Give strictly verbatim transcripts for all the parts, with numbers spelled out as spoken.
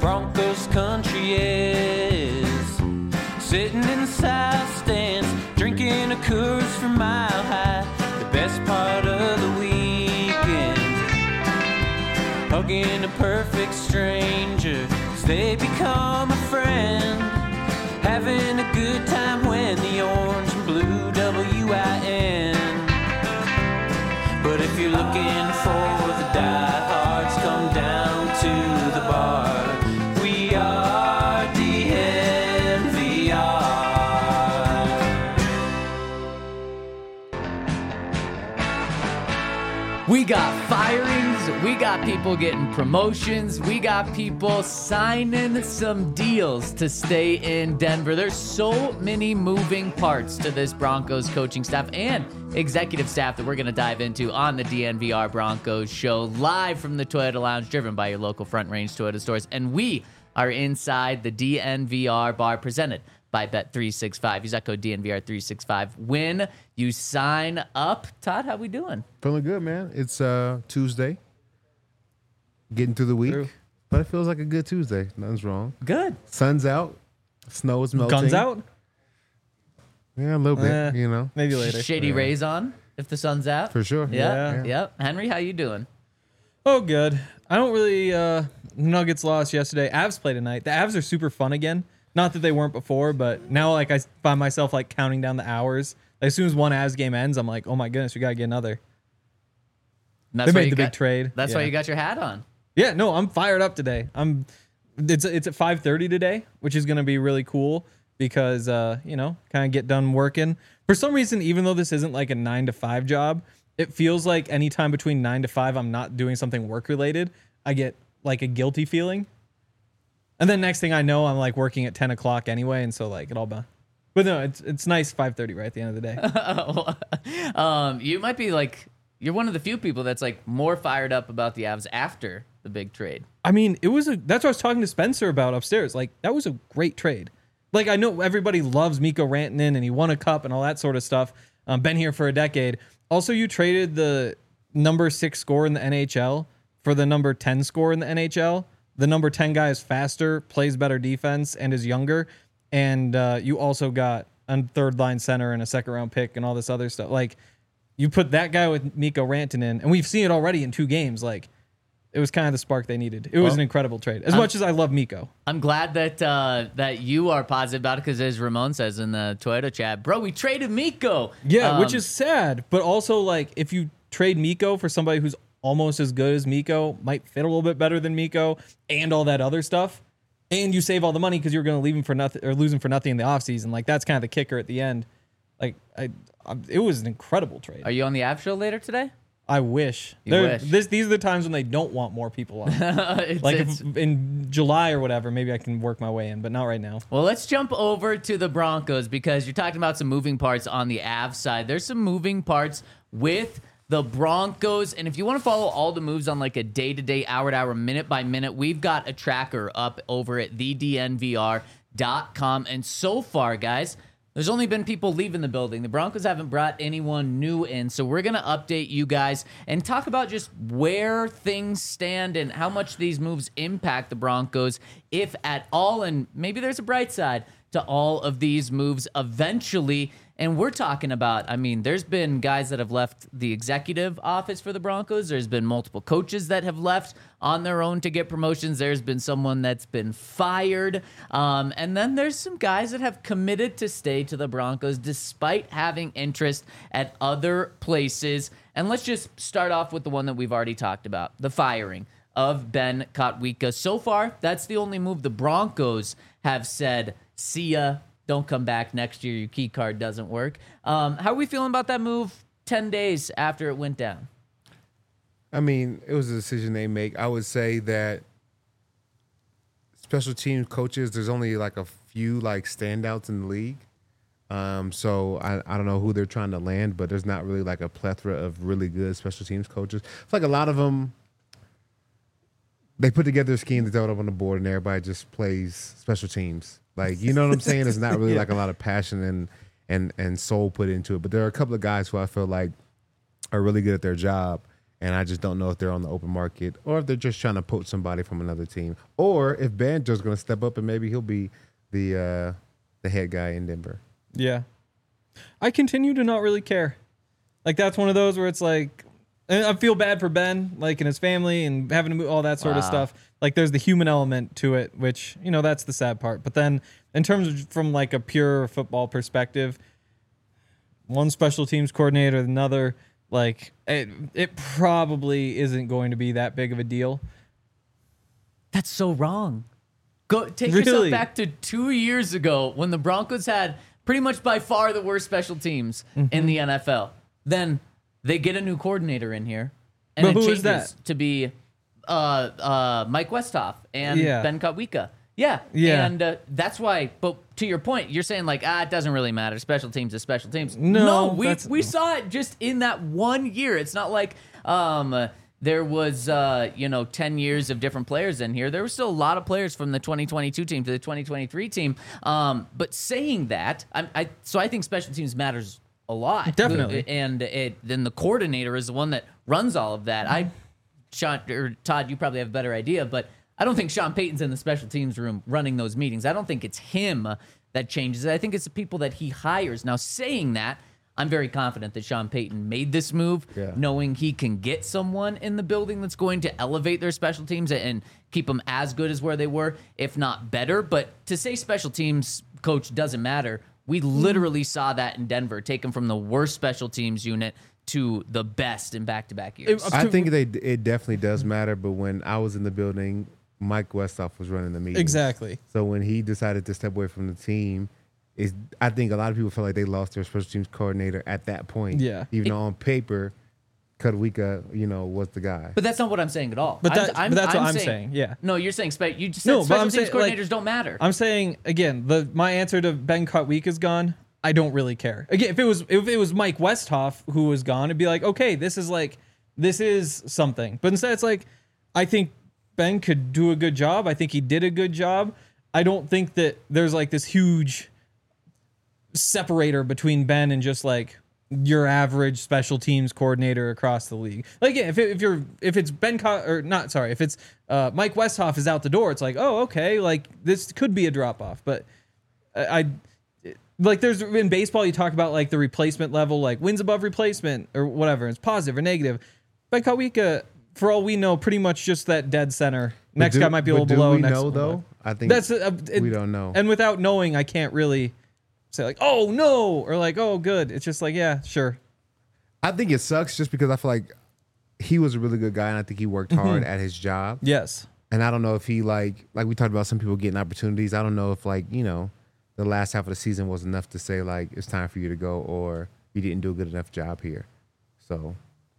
Broncos country is. Sitting in the south stands, drinking a Coors from Mile High. The best part of the weekend, hugging a perfect stranger, 'cause they become a friend. Having a good time when the orange and blue W I N. But if you're looking for the diehards, come down to the bar. We are D N V R. We got firings, we got people getting promotions, we got people signing some deals to stay in Denver. There's so many moving parts to this Broncos coaching staff and executive staff that we're going to dive into on the D N V R Broncos show, live from the Toyota Lounge, driven by your local Front Range Toyota stores. And we are inside the D N V R bar, presented by Bet three sixty-five. Use that code D N V R three sixty-five when you sign up. Todd, how we doing? Feeling good, man. It's uh, Tuesday, getting through the week, True. but it feels like a good Tuesday. Nothing's wrong. Good. Sun's out, snow is melting. Guns out? Yeah, a little bit. Eh, you know, Maybe later. Shady Yeah. rays on if the sun's out. for sure. Yeah, Yeah. yep. Henry, how you doing? Oh, good. I don't really. Uh, Nuggets lost yesterday. Avs play tonight. The Avs are super fun again. Not that they weren't before, but now like I find myself like counting down the hours. Like, as soon as one Avs game ends, I'm like, oh my goodness, we gotta get another. And that's They why made you the big got- trade. That's Yeah. why you got your hat on. Yeah, no, I'm fired up today. I'm. It's it's at five thirty today, which is gonna be really cool because uh you know kind of get done working. For some reason, even though this isn't like a nine to five job, it feels like any time between nine to five, I'm not doing something work related. I get like a guilty feeling. And then next thing I know, I'm like working at ten o'clock anyway, and so like it all. But no, it's it's nice five thirty right at the end of the day. um, you might be like, you're one of the few people that's like more fired up about the Avs after the big trade. I mean, it was a. That's what I was talking to Spencer about upstairs. Like that was a great trade. Like I know everybody loves Mikko Rantanen and he won a cup and all that sort of stuff. Um, been here for a decade. Also, you traded the number six scorer in the N H L for the number ten scorer in the N H L. The number ten guy is faster, plays better defense, and is younger. And uh, you also got a third line center and a second round pick and all this other stuff. Like you put that guy with Mikko Rantanen, and we've seen it already in two games. Like it was kind of the spark they needed. It was Well, an incredible trade. As I'm- much as I love Mikko. I'm glad that uh, that you are positive about it because, as Ramon says in the Toyota chat, bro, we traded Mikko. Yeah, Um, which is sad, but also like if you trade Mikko for somebody who's almost as good as Mikko, might fit a little bit better than Mikko, and all that other stuff, and you save all the money because you're going to leave him for nothing or lose him for nothing in the offseason. Like that's kind of the kicker at the end. Like I, I, it was an incredible trade. Are you on the Av show later today? I wish. You There- wish. This, these are the times when they don't want more people on. It's- like it's- if, in July or whatever, maybe I can work my way in, but not right now. Well, let's jump over to the Broncos because you're talking about some moving parts on the Avs side. There's some moving parts with the Broncos, and if you want to follow all the moves on like a day-to-day, hour-to-hour, minute-by-minute, we've got a tracker up over at the D N V R dot com, and so far, guys, there's only been people leaving the building. The Broncos haven't brought anyone new in, so we're going to update you guys and talk about just where things stand and how much these moves impact the Broncos, if at all, and maybe there's a bright side to all of these moves eventually. And we're talking about, I mean, there's been guys that have left the executive office for the Broncos. There's been multiple coaches that have left on their own to get promotions. There's been someone that's been fired. Um, and then there's some guys that have committed to stay to the Broncos despite having interest at other places. And let's just start off with the one that we've already talked about, the firing of Ben Kotwika. So far, that's the only move the Broncos have said, see ya. Don't come back next year. Your key card doesn't work. Um, how are we feeling about that move ten days after it went down? I mean, it was a decision they make. I would say that special team coaches, there's only like a few like standouts in the league. Um, so I, I don't know who they're trying to land, but there's not really like a plethora of really good special teams coaches. It's like a lot of them, they put together a scheme to throw it up on the board and everybody just plays special teams. Like, you know what I'm saying? There's not really Yeah. like a lot of passion and, and, and soul put into it. But there are a couple of guys who I feel like are really good at their job. And I just don't know if they're on the open market or if they're just trying to poach somebody from another team, or if Banjo's going to step up and maybe he'll be the uh, the head guy in Denver. Yeah. I continue to not really care. Like, that's one of those where it's like, and I feel bad for Ben, like, and his family and having to move, all that sort Wow. of stuff. Like, there's the human element to it, which, you know, that's the sad part. But then in terms of from like a pure football perspective, one special teams coordinator, another, like, it, it probably isn't going to be that big of a deal. That's so wrong. Go take Really? yourself back to two years ago when the Broncos had pretty much by far the worst special teams Mm-hmm. in the N F L. Then they get a new coordinator in here, and But it who changes is that? to be uh, uh, Mike Westhoff and Yeah. Ben Kotwika. Yeah, Yeah. and uh, that's why. But to your point, you're saying like, ah, it doesn't really matter. Special teams is special teams. No, we that's- we saw it just in that one year. It's not like um, there was uh, you know ten years of different players in here. There were still a lot of players from the twenty twenty-two team to the twenty twenty-three team. Um, but saying that, I, I so I think special teams matters a lot. Definitely. And it then the coordinator is the one that runs all of that. I, Sean or Todd, you probably have a better idea, but I don't think Sean Payton's in the special teams room running those meetings. I don't think it's him that changes it. I think it's the people that he hires. Now, saying that, I'm very confident that Sean Payton made this move, Yeah. knowing he can get someone in the building that's going to elevate their special teams and keep them as good as where they were, if not better. But to say special teams coach doesn't matter, we literally saw that in Denver, take them from the worst special teams unit to the best in back-to-back years. It- I think they it definitely does matter, but when I was in the building, Mike Westhoff was running the meeting. Exactly. So when he decided to step away from the team, is I think a lot of people felt like they lost their special teams coordinator at that point. Yeah. Even though on paper, Kotwika, you know, was the guy. But that's not what I'm saying at all. But I'm- that- I'm, but that's what I'm saying, yeah. No, you're saying spe- you just said No, but special I'm teams saying, like, coordinators don't matter. I'm saying again, the my answer to Ben Kotwika is gone. I don't really care. Again, if it was if it was Mike Westhoff who was gone, it'd be like, okay, this is like this is something. But instead, it's like I think Ben could do a good job. I think he did a good job. I don't think that there's like this huge separator between Ben and just like your average special teams coordinator across the league. Like, yeah, if it, if you're if it's Ben Co- or not, sorry, if it's uh, Mike Westhoff is out the door, it's like, oh, okay, like this could be a drop off. But I, I like there's in baseball you talk about like the replacement level, like wins above replacement or whatever, it's positive or negative. Ben Kotwika, for all we know, pretty much just that dead center. Next do- guy might be a but little do below. we next know, below. though? I think that's uh, it, we don't know. And without knowing, I can't really say like, oh no, or like, oh good. It's just like, yeah, sure. I think it sucks just because I feel like he was a really good guy and I think he worked hard at his job. Yes. And I don't know if he like like we talked about some people getting opportunities. I don't know if like, you know, the last half of the season was enough to say like it's time for you to go or you didn't do a good enough job here. So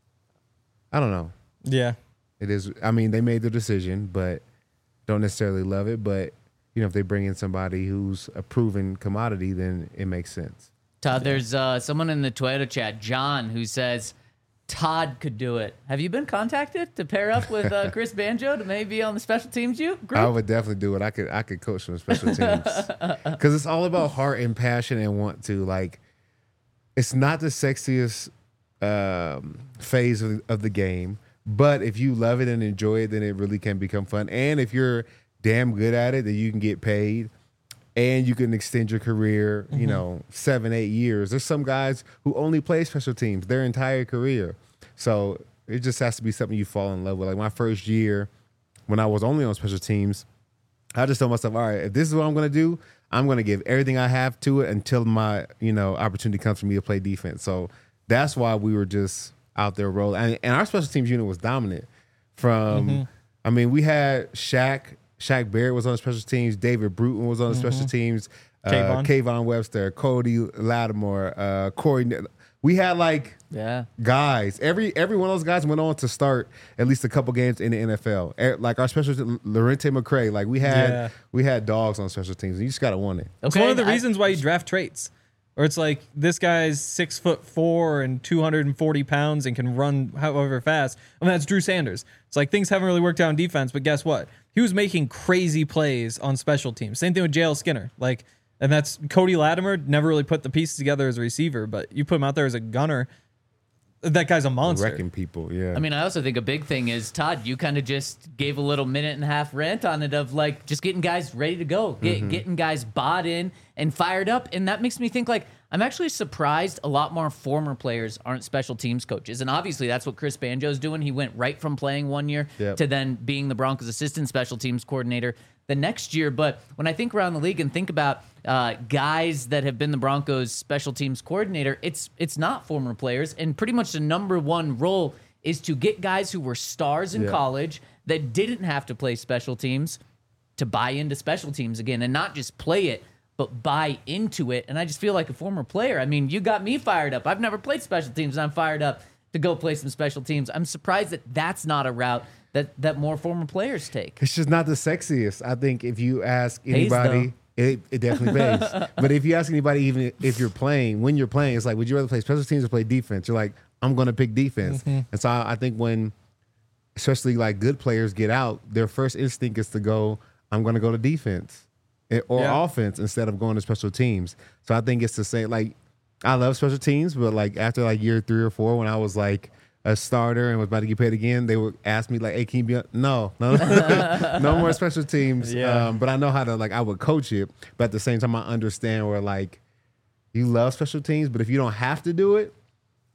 I don't know. Yeah. It is I mean, they made the decision, but don't necessarily love it. But you know, if they bring in somebody who's a proven commodity, then it makes sense. Todd, there's uh, someone in the Twitter chat, John, who says Todd could do it. Have you been contacted to pair up with uh, Chris Banjo to maybe be on the special teams you group? I would definitely do it. I could I could coach some special teams because it's all about heart and passion and want to. Like, it's not the sexiest um, phase of, of the game, but if you love it and enjoy it, then it really can become fun. And if you're damn good at it, then you can get paid and you can extend your career. You know, seven eight years. There's some guys who only play special teams their entire career, so it just has to be something you fall in love with. Like my first year, when I was only on special teams, I just told myself, all right, if this is what I'm going to do, I'm going to give everything I have to it until my, you know, opportunity comes for me to play defense. So that's why we were just out there rolling. And, and our special teams unit was dominant. From, Mm-hmm. I mean, we had Shaq, Shaq Barrett was on the special teams. David Bruton was on the special teams. Uh, Kayvon. Kayvon Webster, Cody Lattimore, uh, Corey. We had like yeah. guys. Every every one of those guys went on to start at least a couple games in the N F L. Eh, Like our special team, Lorente McCray. Like we had Yeah. we had dogs on special teams. And you just gotta want it. It's Okay, one of the I- reasons why you draft traits. Or it's like this guy's six foot four and two hundred forty pounds and can run however fast. I mean, that's Drew Sanders. It's like things haven't really worked out on defense, but guess what? He was making crazy plays on special teams. Same thing with J L Skinner. Like, and that's Cody Latimer never really put the pieces together as a receiver, but you put him out there as a gunner. that guy's a monster. wrecking people. Yeah. I mean, I also think a big thing is, Todd, you kind of just gave a little minute and a half rant on it of like just getting guys ready to go, get, Mm-hmm. getting guys bought in and fired up. And that makes me think like, I'm actually surprised a lot more former players aren't special teams coaches. And obviously that's what Chris Banjo's doing. He went right from playing one year Yep. to then being the Broncos assistant special teams coordinator the next year. But when I think around the league and think about uh, guys that have been the Broncos special teams coordinator, it's it's not former players. And pretty much the number one role is to get guys who were stars in Yeah. college that didn't have to play special teams to buy into special teams again, and not just play it, but buy into it. And I just feel like a former player. I mean, you got me fired up. I've never played special teams, and I'm fired up to go play some special teams. I'm surprised that that's not a route that, that more former players take. It's just not the sexiest. I think if you ask Pays, anybody, it, it definitely pays. But if you ask anybody, even if you're playing, when you're playing, it's like, would you rather play special teams or play defense? You're like, I'm going to pick defense. And so I, I think when, especially like good players get out, their first instinct is to go, I'm going to go to defense eh, or Yeah. offense instead of going to special teams. So I think it's the same. Like, I love special teams, but like after like year three or four, when I was like a starter and was about to get paid again, they would ask me like, "Hey, can you be on?" No, no, no more special teams. Yeah. Um, but I know how to like. I would coach it, but at the same time, I understand where like you love special teams, but if you don't have to do it,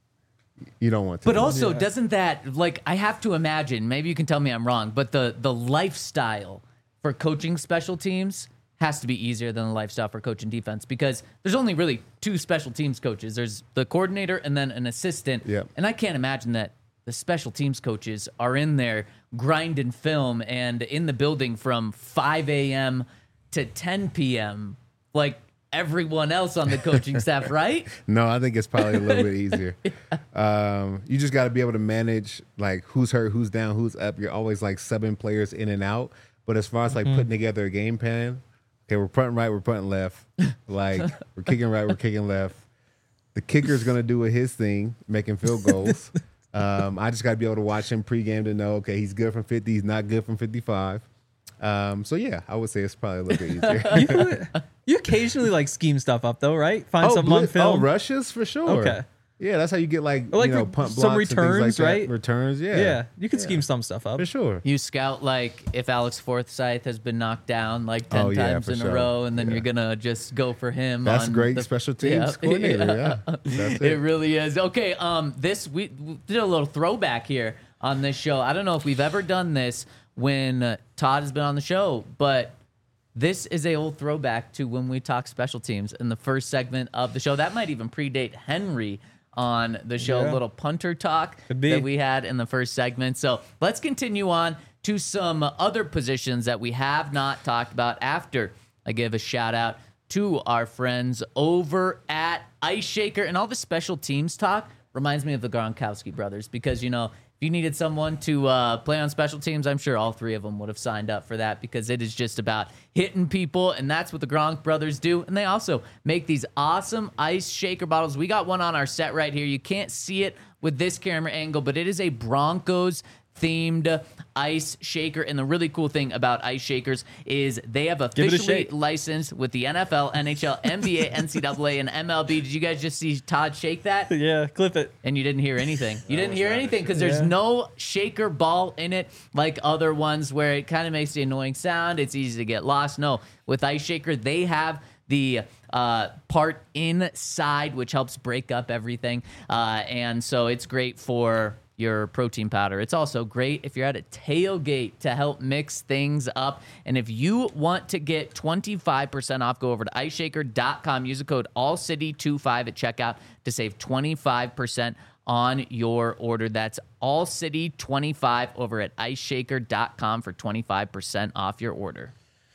you don't want to. But also, doesn't that, like, I have to imagine, maybe you can tell me I'm wrong, but the the lifestyle for coaching special teams has to be easier than the lifestyle for coaching defense, because there's only really two special teams coaches. There's the coordinator and then an assistant. Yep. And I can't imagine that the special teams coaches are in there grinding film and in the building from five a.m. to ten p.m. like everyone else on the coaching staff, right? No, I think it's probably a little bit easier. Um, you just got to be able to manage like who's hurt, who's down, who's up. You're always like subbing players in and out. But as far as like putting together a game plan, okay, we're punting right, we're punting left. Like we're kicking right, we're kicking left. The kicker's gonna do his thing, making field goals. Um, I just got to be able to watch him pregame to know, okay, he's good from fifty, he's not good from fifty-five. Um, so yeah, I would say it's probably a little bit easier. You, you occasionally like scheme stuff up though, right? Find something on blitz- film. Oh, rushes for sure. Okay. Yeah, that's how you get like, Or like you know, re- punt some blocks and things returns, like that. right? Returns, yeah. yeah, you can scheme some stuff up. For sure. You scout like if Alex Forsyth has been knocked down like ten Oh, yeah, times for in a sure. row, and then Yeah. you're gonna just go for him. That's on great the, special teams Yeah. coordinator. Yeah, that's it. It really is. Okay, um, this we, we did a little throwback here on this show. I don't know if we've ever done this when uh, Todd has been on the show, but this is a old throwback to when we talk special teams in the first segment of the show. That might even predate Henry on the show. Yeah. A little punter talk Could be. that we had in the first segment. So let's continue on to some other positions that we have not talked about after I give a shout out to our friends over at Ice Shaker. And all the special teams talk reminds me of the Gronkowski brothers, because, you know, if you needed someone to uh, play on special teams, I'm sure all three of them would have signed up for that, because it is just about hitting people, and that's what the Gronk brothers do. And they also make these awesome ice shaker bottles. We got one on our set right here. You can't see it with this camera angle, but it is a Broncos themed ice shaker. And the really cool thing about ice shakers is they have it a officially shake. licensed with the N F L, N H L, N B A, N C double A, and M L B. Did you guys just see Todd shake that? Yeah, clip it. And you didn't hear anything. You didn't hear anything because there's Yeah. no shaker ball in it like other ones where it kind of makes the annoying sound. It's easy to get lost. No, with Ice Shaker, they have the uh, part inside, which helps break up everything. Uh, and so it's great for your protein powder. It's also great if you're at a tailgate to help mix things up. And if you want to get twenty-five percent off, go over to ice shaker dot com. Use the code all city twenty-five at checkout to save twenty-five percent on your order. That's all city twenty-five over at ice shaker dot com for twenty-five percent off your order.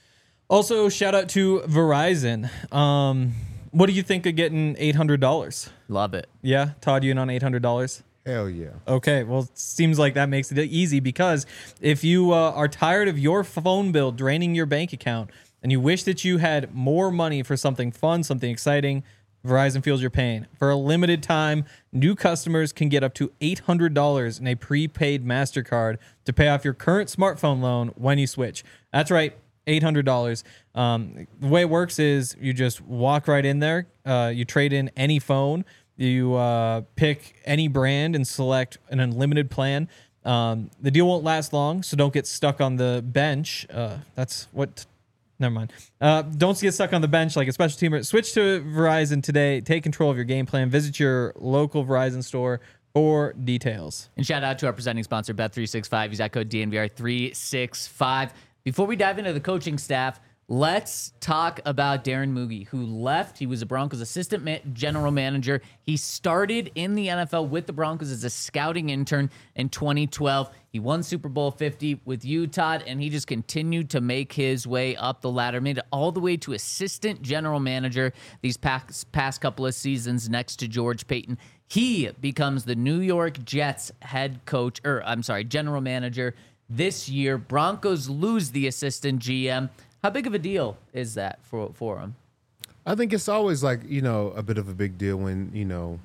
Also, shout out to Verizon. Um, what do you think of getting eight hundred dollars? Love it. Yeah, Todd, you in on eight hundred dollars? Hell yeah. Okay, well, it seems like that makes it easy, because if you uh, are tired of your phone bill draining your bank account and you wish that you had more money for something fun, something exciting, Verizon feels your pain. For a limited time, new customers can get up to eight hundred dollars in a prepaid MasterCard to pay off your current smartphone loan when you switch. That's right, eight hundred dollars. Um, the way it works is you just walk right in there, uh, you trade in any phone, You uh, pick any brand and select an unlimited plan. Um, the deal won't last long, so don't get stuck on the bench. Uh, that's what. Never mind. Uh, don't get stuck on the bench like a special teamer. Switch to Verizon today. Take control of your game plan. Visit your local Verizon store for details. And shout out to our presenting sponsor, Bet three sixty-five. Use that code D N V R three sixty-five. Before we dive into the coaching staff, let's talk about Darren Muge, who left. He was a Broncos assistant ma- general manager. He started in the N F L with the Broncos as a scouting intern in twenty twelve. He won Super Bowl fifty with Utah, and he just continued to make his way up the ladder, made it all the way to assistant general manager these past, past couple of seasons next to George Paton. He becomes the New York Jets head coach, or I'm sorry, general manager this year. Broncos lose the assistant G M. How big of a deal is that for for him? I think it's always like, you know, a bit of a big deal when, you know,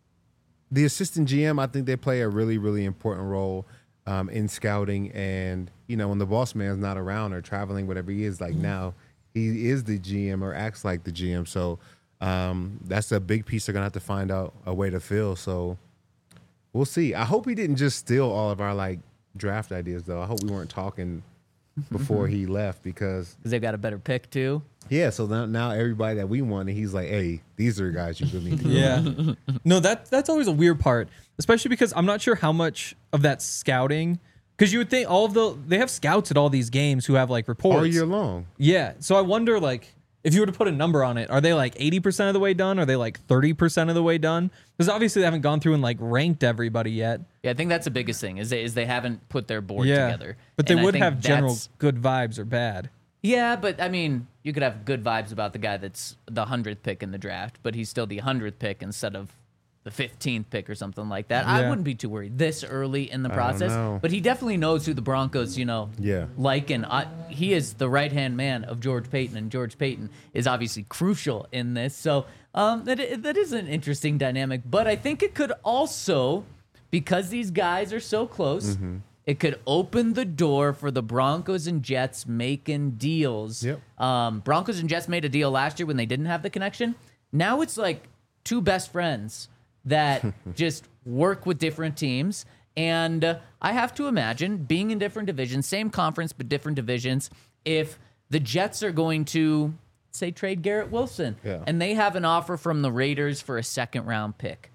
the assistant G M, I think they play a really, really important role um, in scouting. And, you know, when the boss man's not around or traveling, whatever he is, like now, he is the G M or acts like the G M. So um, that's a big piece they're going to have to find out a way to fill. So we'll see. I hope he didn't just steal all of our, like, draft ideas, though. I hope we weren't talking before he left because Because they've got a better pick, too. yeah, so now, now everybody that we wanted, he's like, hey, these are the guys you really need to Yeah. No, that that's always a weird part, especially because I'm not sure how much of that scouting, because you would think all of the, they have scouts at all these games who have like reports. all year long. Yeah. So I wonder, like, if you were to put a number on it, are they like eighty percent of the way done? Are they like thirty percent of the way done? Because obviously they haven't gone through and like ranked everybody yet. Yeah, I think that's the biggest thing is they, is they haven't put their board Yeah. together. But they And I would think have general that's- good vibes or bad. Yeah, but I mean, you could have good vibes about the guy that's the hundredth pick in the draft, but he's still the hundredth pick instead of the fifteenth pick or something like that. I Yeah. wouldn't be too worried this early in the don't process. know. But he definitely knows who the Broncos, you know, Yeah. like, and I, he is the right hand man of George Paton, and George Paton is obviously crucial in this. So um, that i- that is an interesting dynamic. But I think it could also, because these guys are so close. Mm-hmm. It could open the door for the Broncos and Jets making deals. Yep. Um, Broncos and Jets made a deal last year when they didn't have the connection. Now it's like two best friends that just work with different teams. And uh, I have to imagine being in different divisions, same conference, but different divisions, if the Jets are going to, say, trade Garrett Wilson, Yeah. and they have an offer from the Raiders for a second round pick.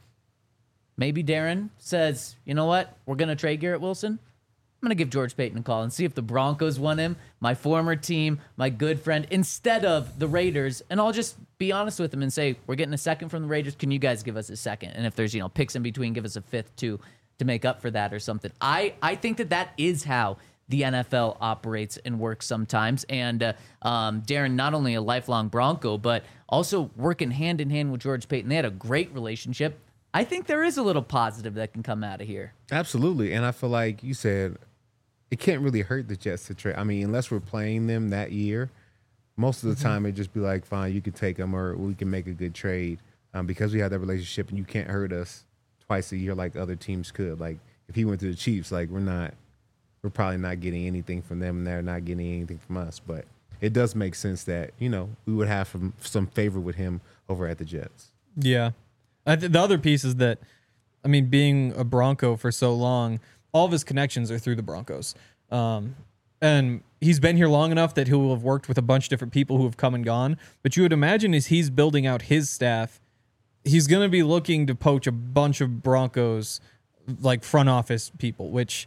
Maybe Darren says, you know what? We're going to trade Garrett Wilson. I'm going to give George Paton a call and see if the Broncos want him, my former team, my good friend, instead of the Raiders. And I'll just be honest with him and say, we're getting a second from the Raiders. Can you guys give us a second? And if there's, you know, picks in between, give us a fifth too to make up for that or something. I, I think that that is how the N F L operates and works sometimes. And uh, um, Darren, not only a lifelong Bronco, but also working hand in hand with George Paton. They had a great relationship. I think there is a little positive that can come out of here. Absolutely. And I feel like you said it can't really hurt the Jets to trade. I mean, unless we're playing them that year, most of the time it'd just be like, fine, you can take them or we can make a good trade um, because we have that relationship and you can't hurt us twice a year like other teams could. Like if he went to the Chiefs, like we're not, we're probably not getting anything from them and they're not getting anything from us. But it does make sense that, you know, we would have some, some favor with him over at the Jets. Yeah. I th- the other piece is that, I mean, being a Bronco for so long, all of his connections are through the Broncos. Um, and he's been here long enough that he will have worked with a bunch of different people who have come and gone. But you would imagine as he's building out his staff, he's going to be looking to poach a bunch of Broncos, like front office people, which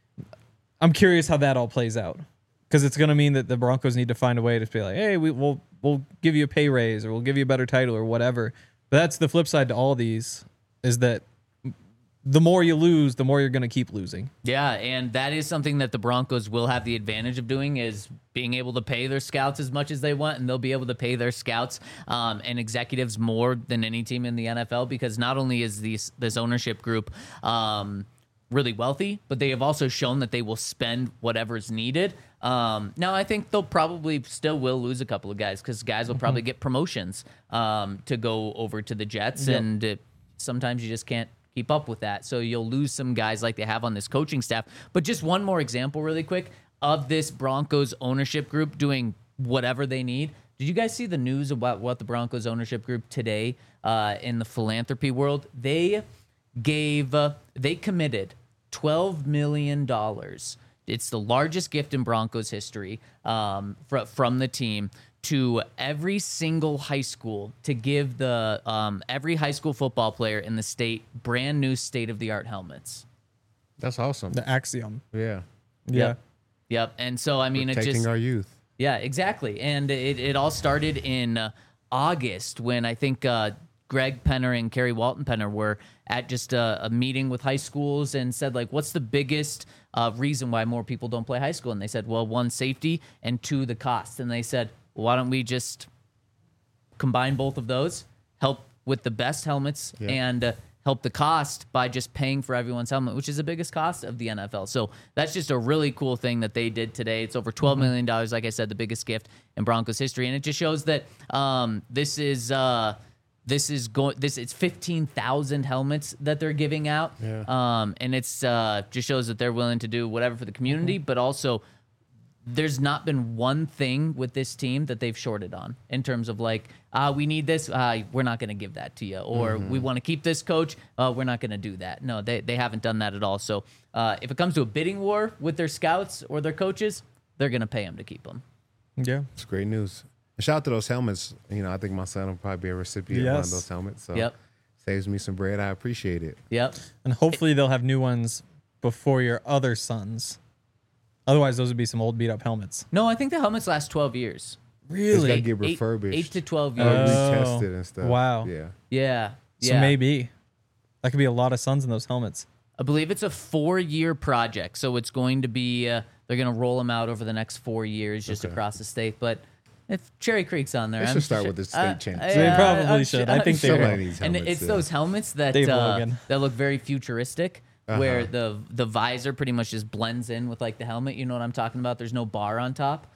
I'm curious how that all plays out. Because it's going to mean that the Broncos need to find a way to be like, hey, we, we'll we'll give you a pay raise or we'll give you a better title or whatever. But that's the flip side to all these is that the more you lose, the more you're going to keep losing. Yeah, and that is something that the Broncos will have the advantage of doing is being able to pay their scouts as much as they want, and they'll be able to pay their scouts um, and executives more than any team in the N F L because not only is these, this ownership group um, really wealthy, but they have also shown that they will spend whatever's needed. Um, now, I think they'll probably still will lose a couple of guys because guys will probably get promotions um, to go over to the Jets, Yep. and it, sometimes you just can't keep up with that. So you'll lose some guys like they have on this coaching staff. But just one more example really quick of this Broncos ownership group doing whatever they need. Did you guys see the news about what the Broncos ownership group today uh, in the philanthropy world? They gave, uh, they committed twelve million dollars. It's the largest gift in Broncos history um, fr- from the team to every single high school to give the um, every high school football player in the state brand new state-of-the-art helmets. That's awesome. The Axiom. Yeah. Yeah. Yep. Yep. And so, I mean, it Protecting just... our youth. Yeah, exactly. And it, it all started in uh, August when I think uh, Greg Penner and Kerry Walton Penner were at just a, a meeting with high schools and said, like, what's the biggest uh, reason why more people don't play high school? And they said, well, one, safety, and two, the cost. And they said, well, why don't we just combine both of those, help with the best helmets, Yeah. and uh, help the cost by just paying for everyone's helmet, which is the biggest cost of the N F L. So that's just a really cool thing that they did today. It's over twelve million dollars, like I said, the biggest gift in Broncos history. And it just shows that um, this is uh, this is going this it's fifteen thousand helmets that they're giving out. Yeah. Um, and it's uh, just shows that they're willing to do whatever for the community, but also there's not been one thing with this team that they've shorted on in terms of like, ah, we need this, uh, we're not going to give that to you, or we want to keep this coach, uh, we're not going to do that. No, they they haven't done that at all. So uh, if it comes to a bidding war with their scouts or their coaches, they're going to pay them to keep them. Yeah. It's great news. And shout out to those helmets. You know, I think my son will probably be a recipient of one of Yes. those helmets. So Yep. saves me some bread. I appreciate it. Yep. And hopefully they'll have new ones before your other sons. Otherwise, those would be some old beat up helmets. No, I think the helmets last twelve years. It's got to Really? get Eight, refurbished. eight to twelve or years. Oh. retested and stuff. Wow. Yeah. yeah. So yeah. maybe that could be a lot of sons in those helmets. I believe it's a four-year project, so it's going to be uh, they're going to roll them out over the next four years just Okay. across the state. But if Cherry Creek's on there, They I'm should start sure- with the state uh, championship. They uh, probably I'm should. su- I I'm think they sure. will. Somebody needs And helmets, it's yeah. those helmets that Dave uh, Logan. that look very futuristic, where Uh-huh. the the visor pretty much just blends in with like the helmet. You know what I'm talking about? There's no bar on top.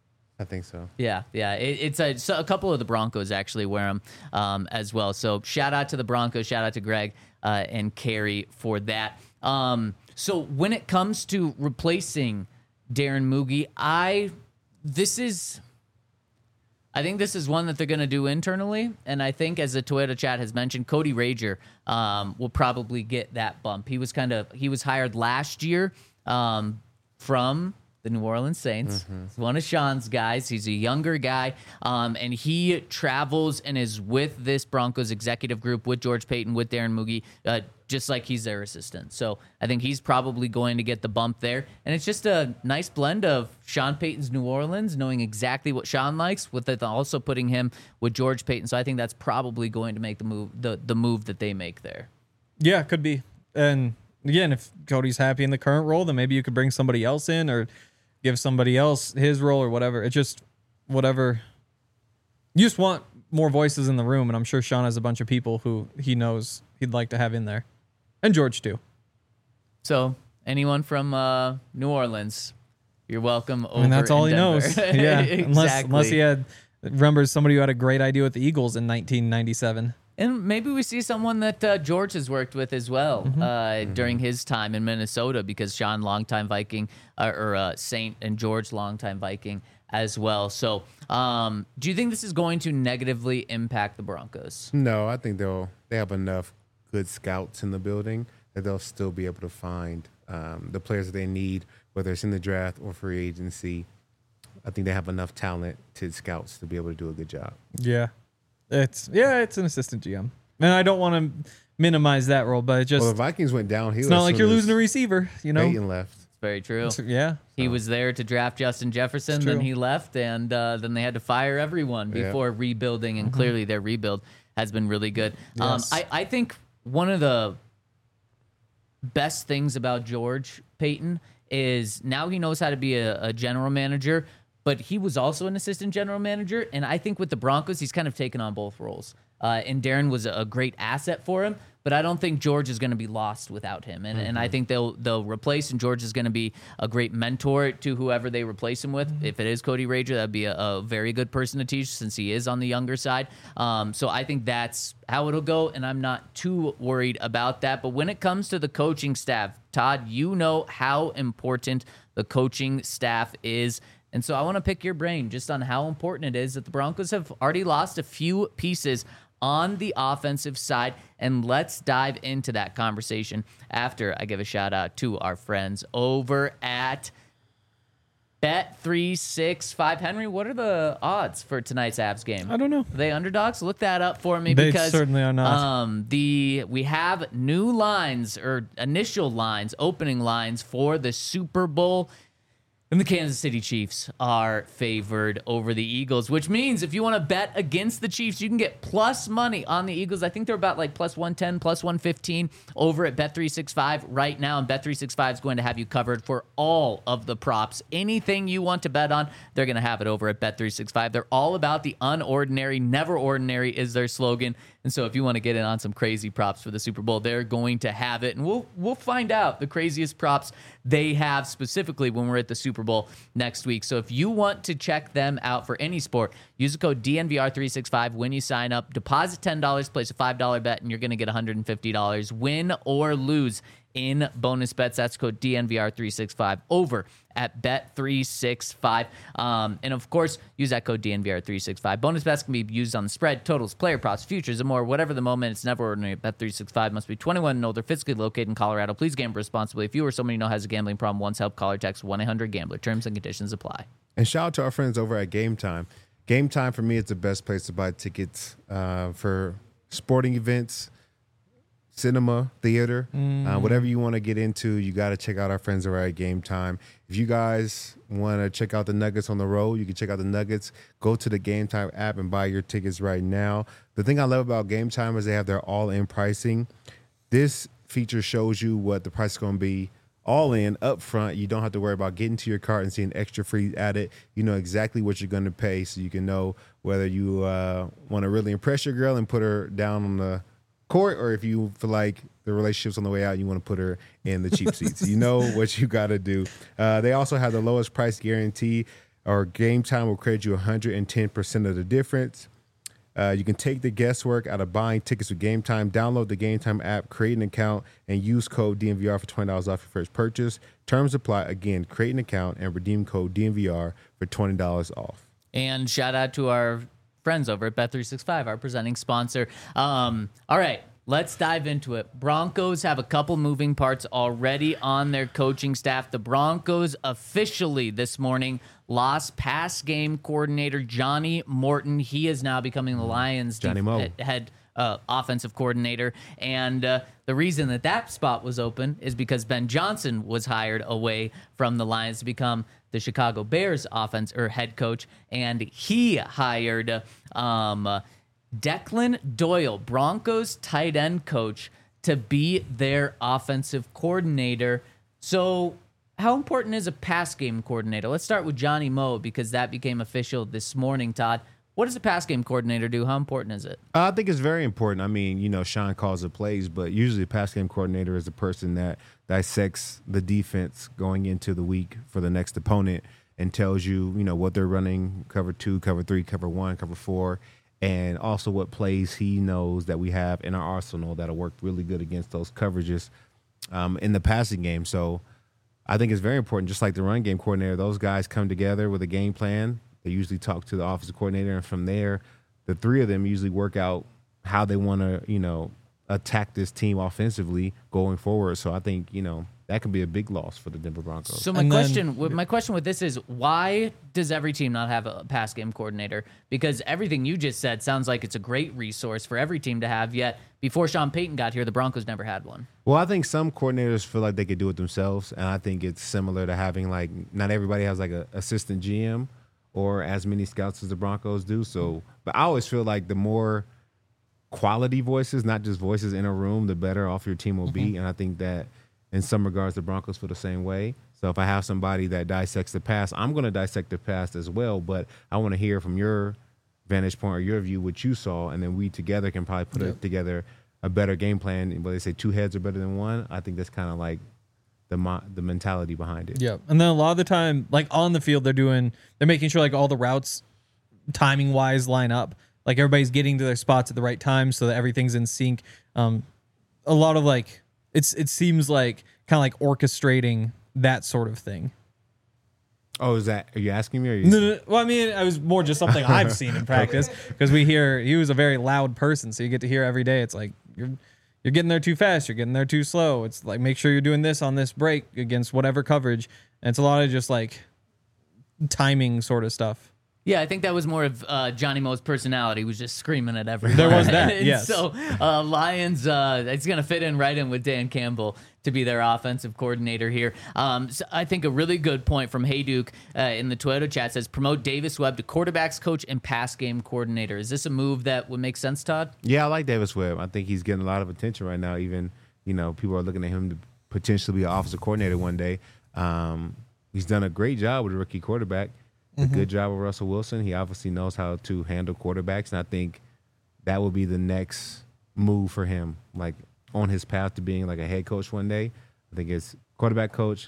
I think so. Yeah, yeah. It, it's a, so a couple of the Broncos actually wear them um, as well. So shout out to the Broncos. Shout out to Greg uh, and Carrie for that. Um, so when it comes to replacing Darren Moogie, I this is. I think this is one that they're going to do internally, and I think, as the Toyota chat has mentioned, Cody Rager um, will probably get that bump. He was kind of he was hired last year um, from the New Orleans Saints. He's one of Sean's guys. He's a younger guy, um, and he travels and is with this Broncos executive group, with George Payton, with Darren Moogie, uh, just like he's their assistant. So I think he's probably going to get the bump there. And it's just a nice blend of Sean Payton's New Orleans, knowing exactly what Sean likes, with it also putting him with George Payton. So I think that's probably going to make the move, the, the move that they make there. Yeah, could be. And again, if Cody's happy in the current role, then maybe you could bring somebody else in or give somebody else his role or whatever. It just, whatever. You just want more voices in the room, and I'm sure Sean has a bunch of people who he knows he'd like to have in there. And George, too. So anyone from uh, New Orleans, you're welcome over I mean, that's all in he Denver. knows. Yeah, unless Exactly. unless he had remembers somebody who had a great idea with the Eagles in nineteen ninety-seven. And maybe we see someone that uh, George has worked with as well Mm-hmm. uh, Mm-hmm. during his time in Minnesota, because Sean, longtime Viking, uh, or uh, Saint, and George, longtime Viking as well. So um, do you think this is going to negatively impact the Broncos? No, I think they'll they have enough good scouts in the building that they'll still be able to find um, the players that they need, whether it's in the draft or free agency. I think they have enough talented scouts to be able to do a good job. Yeah, it's yeah, it's an assistant G M, and I don't want to minimize that role, but it just Well, the Vikings went downhill. it's not as like soon you're as losing a receiver, you know. Peyton left. It's very true. It's- yeah, He was there to draft Justin Jefferson, It's then true. he left, and uh, then they had to fire everyone Yeah. before rebuilding, and clearly their rebuild has been really good. Um, Yes. I, I think one of the best things about George Payton is now he knows how to be a, a general manager, but he was also an assistant general manager, and I think with the Broncos, he's kind of taken on both roles. Uh, and Darren was a, a great asset for him, but I don't think George is going to be lost without him. And, and I think they'll they'll replace, and George is going to be a great mentor to whoever they replace him with. If it is Cody Rager, that'd be a, a very good person to teach, since he is on the younger side. Um, so I think that's how it'll go, and I'm not too worried about that. But when it comes to the coaching staff, Todd, you know how important the coaching staff is And so I want to pick your brain just on how important it is that the Broncos have already lost a few pieces on the offensive side. And let's dive into that conversation after I give a shout out to our friends over at Bet three sixty-five. Henry, what are the odds for tonight's Avs game? I don't know. Are they underdogs? Look that up for me. They because certainly are not. Um, the we have new lines or initial lines, opening lines for the Super Bowl. And the Kansas City Chiefs are favored over the Eagles, which means if you want to bet against the Chiefs, you can get plus money on the Eagles. I think they're about like plus one ten, plus one fifteen over at Bet three sixty-five right now. And Bet three sixty-five is going to have you covered for all of the props. Anything you want to bet on, they're going to have it over at Bet three sixty-five. They're all about the unordinary. Never ordinary is their slogan. And so if you want to get in on some crazy props for the Super Bowl, they're going to have it. And we'll we'll find out the craziest props they have specifically when we're at the Super Bowl next week. So if you want to check them out for any sport, use the code D N V R three sixty-five when you sign up. Deposit ten dollars, place a five dollar bet, and you're going to get one hundred fifty dollars. Win or lose in bonus bets. That's code D N V R three sixty-five over at Bet three sixty-five. Um, and of course, use that code D N V R three sixty-five. Bonus bets can be used on the spread, totals, player props, futures, and more. Whatever the moment, it's never ordinary. Bet three sixty-five must be twenty-one and older, physically located in Colorado. Please gamble responsibly. If you or someone you know has a gambling problem, once help, call or text one eight hundred gambler. Terms and conditions apply. And shout out to our friends over at Game Time. Game Time for me is the best place to buy tickets uh, for sporting events, cinema, theater, mm. uh, whatever you want to get into. You got to check out our friends over at Game Time. If you guys want to check out the Nuggets on the road, you can check out the Nuggets. Go to the Game Time app and buy your tickets right now. The thing I love about Game Time is they have their all-in pricing. This feature shows you what the price is going to be all in up front. You don't have to worry about getting to your cart and seeing extra free added. You know exactly what you're going to pay, so you can know whether you uh, want to really impress your girl and put her down on the court, or if you feel like the relationship's on the way out, you want to put her in the cheap seats. You know what you got to do. Uh, they also have the lowest price guarantee, or Game Time will credit you one hundred ten percent of the difference. Uh, you can take the guesswork out of buying tickets with Game Time. Download the Game Time app, create an account, and use code D N V R for twenty dollars off your first purchase. Terms apply. Again, create an account and redeem code D N V R for twenty dollars off. And shout out to our friends over at Bet three sixty-five, our presenting sponsor. Um, all right, let's dive into it. Broncos have a couple moving parts already on their coaching staff. The Broncos officially this morning lost pass game coordinator Johnny Morton. He is now becoming the Lions' Johnny def- Mo. head uh, offensive coordinator. And uh, the reason that that spot was open is because Ben Johnson was hired away from the Lions to become the Chicago Bears offense or head coach, and he hired um, Declan Doyle, Broncos tight end coach, to be their offensive coordinator. So how important is a pass game coordinator? Let's start with Johnny Mo, because that became official this morning, Todd. What does a pass game coordinator do? How important is it? I think it's very important. I mean, you know, Sean calls the plays, but usually a pass game coordinator is the person that dissects the defense going into the week for the next opponent and tells you, you know, what they're running, cover two, cover three, cover one, cover four, and also what plays he knows that we have in our arsenal that'll work really good against those coverages um, in the passing game. So I think it's very important. Just like the run game coordinator, those guys come together with a game plan. They usually talk to the offensive coordinator, and from there, the three of them usually work out how they want to, you know, attack this team offensively going forward. So I think, you know, that could be a big loss for the Denver Broncos. So my And then- question, with- my question with this is, why does every team not have a pass game coordinator? Because everything you just said sounds like it's a great resource for every team to have. Yet before Sean Payton got here, the Broncos never had one. Well, I think some coordinators feel like they could do it themselves, and I think it's similar to having, like, not everybody has like a assistant G M or as many scouts as the Broncos do. So, but I always feel like the more quality voices, not just voices in a room, the better off your team will be. And I think that in some regards, the Broncos feel the same way. So if I have somebody that dissects the pass, I'm going to dissect the pass as well. But I want to hear from your vantage point or your view what you saw, and then we together can probably put Yep. it together a better game plan. But they say two heads are better than one. I think that's kind of like the mo- the mentality behind it. Yeah, and then a lot of the time, like on the field, they're doing, they're making sure like all the routes, timing wise, line up. Like everybody's getting to their spots at the right time, so that everything's in sync. Um, a lot of like, it's it seems like kind of like orchestrating that sort of thing. Oh, is that? Are you asking me? Or are you No, no, no. Well, I mean, it was more just something I've seen in practice because we hear he was a very loud person, so you get to hear every day. It's like you're you're getting there too fast, you're getting there too slow. It's like make sure you're doing this on this break against whatever coverage. And it's a lot of just like timing sort of stuff. Yeah, I think that was more of uh, Johnny Mo's personality. He was just screaming at everyone. There was that, And yes. So uh, Lions, uh, it's going to fit in right in with Dan Campbell to be their offensive coordinator here. Um, so I think a really good point from Hayduke uh, in the Toyota chat says, promote Davis Webb to quarterbacks coach and pass game coordinator. Is this a move that would make sense, Todd? Yeah, I like Davis Webb. I think he's getting a lot of attention right now. Even, you know, people are looking at him to potentially be an offensive coordinator one day. Um, he's done a great job with a rookie quarterback. A good job with Russell Wilson. He obviously knows how to handle quarterbacks, and I think that will be the next move for him, like on his path to being like a head coach one day. I think it's quarterback coach,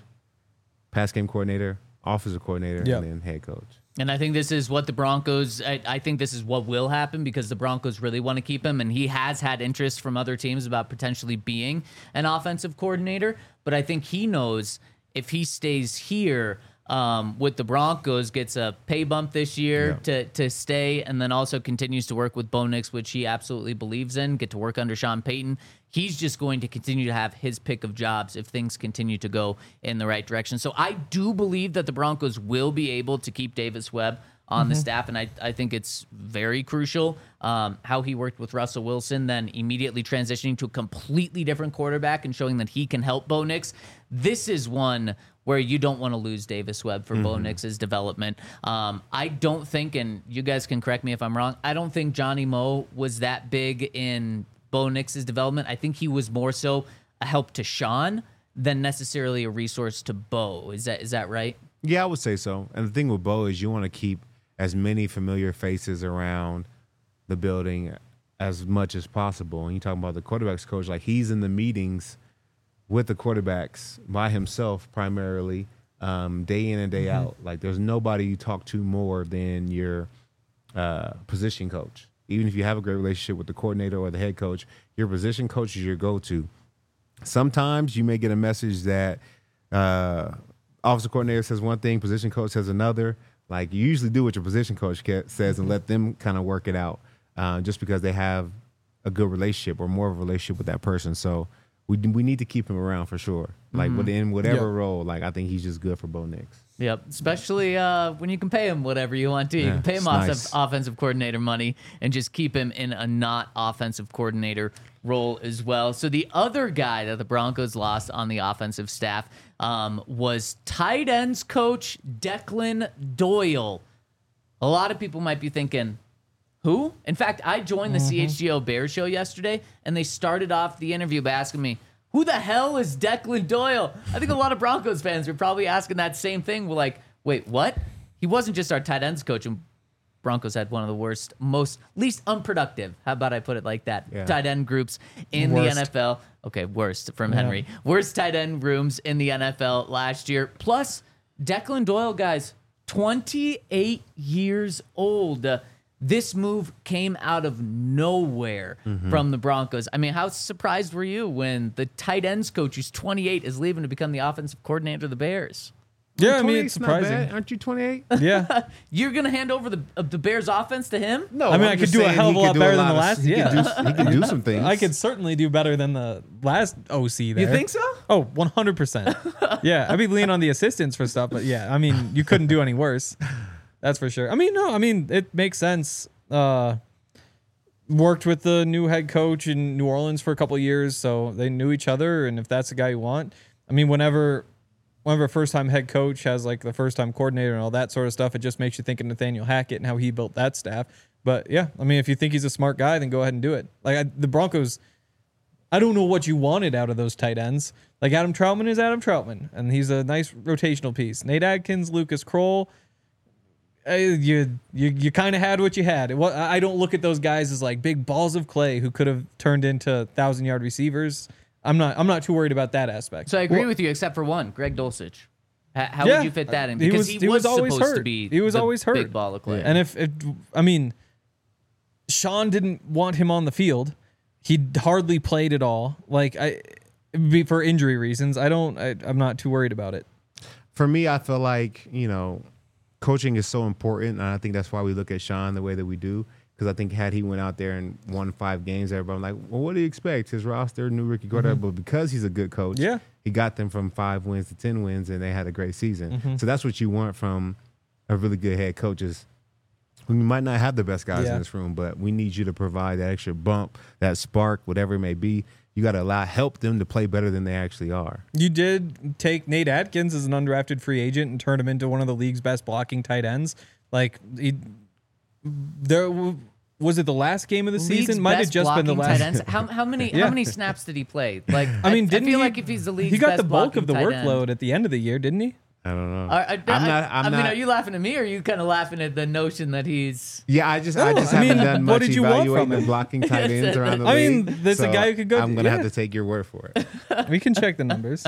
pass game coordinator, offensive coordinator, Yep. and then head coach. And I think this is what the Broncos, I, I think this is what will happen because the Broncos really want to keep him. And he has had interest from other teams about potentially being an offensive coordinator. But I think he knows if he stays here um, with the Broncos, gets a pay bump this year Yeah. to, to stay, and then also continues to work with Bo Nix, which he absolutely believes in, get to work under Sean Payton. He's just going to continue to have his pick of jobs if things continue to go in the right direction. So I do believe that the Broncos will be able to keep Davis Webb on the staff, and I, I think it's very crucial um, how he worked with Russell Wilson, then immediately transitioning to a completely different quarterback and showing that he can help Bo Nix. This is one where you don't want to lose Davis Webb for mm-hmm. Bo Nix's development. Um, I don't think, and you guys can correct me if I'm wrong, I don't think Johnny Mo was that big in Bo Nix's development. I think he was more so a help to Sean than necessarily a resource to Bo. Is that is that right? Yeah, I would say so. And the thing with Bo is you want to keep as many familiar faces around the building as much as possible. And you talking about the quarterbacks coach, like he's in the meetings with the quarterbacks by himself primarily, um, day in and day mm-hmm. out. Like there's nobody you talk to more than your uh, position coach. Even if you have a great relationship with the coordinator or the head coach, your position coach is your go-to. Sometimes you may get a message that uh, offensive coordinator says one thing, position coach says another. Like you usually do what your position coach says and let them kind of work it out uh, just because they have a good relationship or more of a relationship with that person. So we we need to keep him around for sure. Like mm-hmm. within whatever yep. role, like I think he's just good for Bo Nix. Yep, especially uh, when you can pay him whatever you want to. You yeah, can pay him nice. offensive coordinator money and just keep him in a not offensive coordinator role as well. So the other guy that the Broncos lost on the offensive staff um, was tight ends coach Declan Doyle. A lot of people might be thinking, who? In fact, I joined the mm-hmm. C H G O Bears show yesterday, and they started off the interview by asking me, who the hell is Declan Doyle? I think a lot of Broncos fans were probably asking that same thing. We're like, wait, what? He wasn't just our tight ends coach, and Broncos had one of the worst, most, least unproductive, how about I put it like that, yeah. tight end groups in Worst. the N F L. Okay, worst from Yeah. Henry. Worst tight end rooms in the N F L last year. Plus, Declan Doyle, guys, twenty-eight years old. Uh, This move came out of nowhere mm-hmm. from the Broncos. I mean, how surprised were you when the tight ends coach, who's twenty-eight, is leaving to become the offensive coordinator of the Bears? Yeah, I mean, it's surprising. Aren't you twenty-eight? Yeah. You're going to hand over the uh, the Bears offense to him? No, I mean, I'm I could just do a saying hell of he a could lot do better than of- the last- He yeah. could do, he could do some things. I could certainly do better than the last O C there. You think so? Oh, one hundred percent. Yeah, I'd be leaning on the assistants for stuff, but yeah, I mean, you couldn't do any worse. That's for sure. I mean, no, I mean, it makes sense. Uh, worked with the new head coach in New Orleans for a couple of years, so they knew each other, and if that's the guy you want, I mean, whenever whenever a first-time head coach has like the first-time coordinator and all that sort of stuff, it just makes you think of Nathaniel Hackett and how he built that staff. But yeah, I mean, if you think he's a smart guy, then go ahead and do it. Like I, the Broncos, I don't know what you wanted out of those tight ends. Like Adam Troutman is Adam Troutman, and he's a nice rotational piece. Nate Adkins, Lucas Kroll, uh, you you you kind of had what you had. It, wa- I don't look at those guys as like big balls of clay who could have turned into thousand-yard receivers. I'm not I'm not too worried about that aspect. So I agree with you, except for one, Greg Dulcich. How, how Yeah. would you fit that in? He Because was- he, he was, was always supposed to hurt. be He was the always hurt. big ball of clay. And if, if I mean, Sean didn't want him on the field. He hardly played at all. Like I, it'd be for injury reasons. I don't. I, I'm not too worried about it. for me, I feel like, you know, coaching is so important, and I think that's why we look at Sean the way that we do. Because I think had he went out there and won five games, everybody like, well, what do you expect? His roster, new rookie quarterback. Mm-hmm. But because he's a good coach, yeah. he got them from five wins to ten wins, and they had a great season. Mm-hmm. So that's what you want from a really good head coach is we might not have the best guys yeah. in this room, but we need you to provide that extra bump, that spark, whatever it may be. You got to allow help them to play better than they actually are. You did take Nate Atkins as an undrafted free agent and turn him into one of the league's best blocking tight ends. Like he, there was it the last game of the League's season? Might have best just been the blocking last. tight ends. How, how many Yeah. how many snaps did he play? Like I mean, I, didn't I feel he, like if he's the league's he got best the bulk of the blocking tight workload end, at the end of the year, didn't he? I don't know. Are, are, I'm I, not. I'm I mean, not. are you laughing at me, or are you kind of laughing at the notion that he's? Yeah, I just I No, just I haven't mean, done what much did you want evaluating from the him? blocking tight ends around the I league. mean, there's a so guy who could go- I'm gonna yeah. have to take your word for it. We can check the numbers.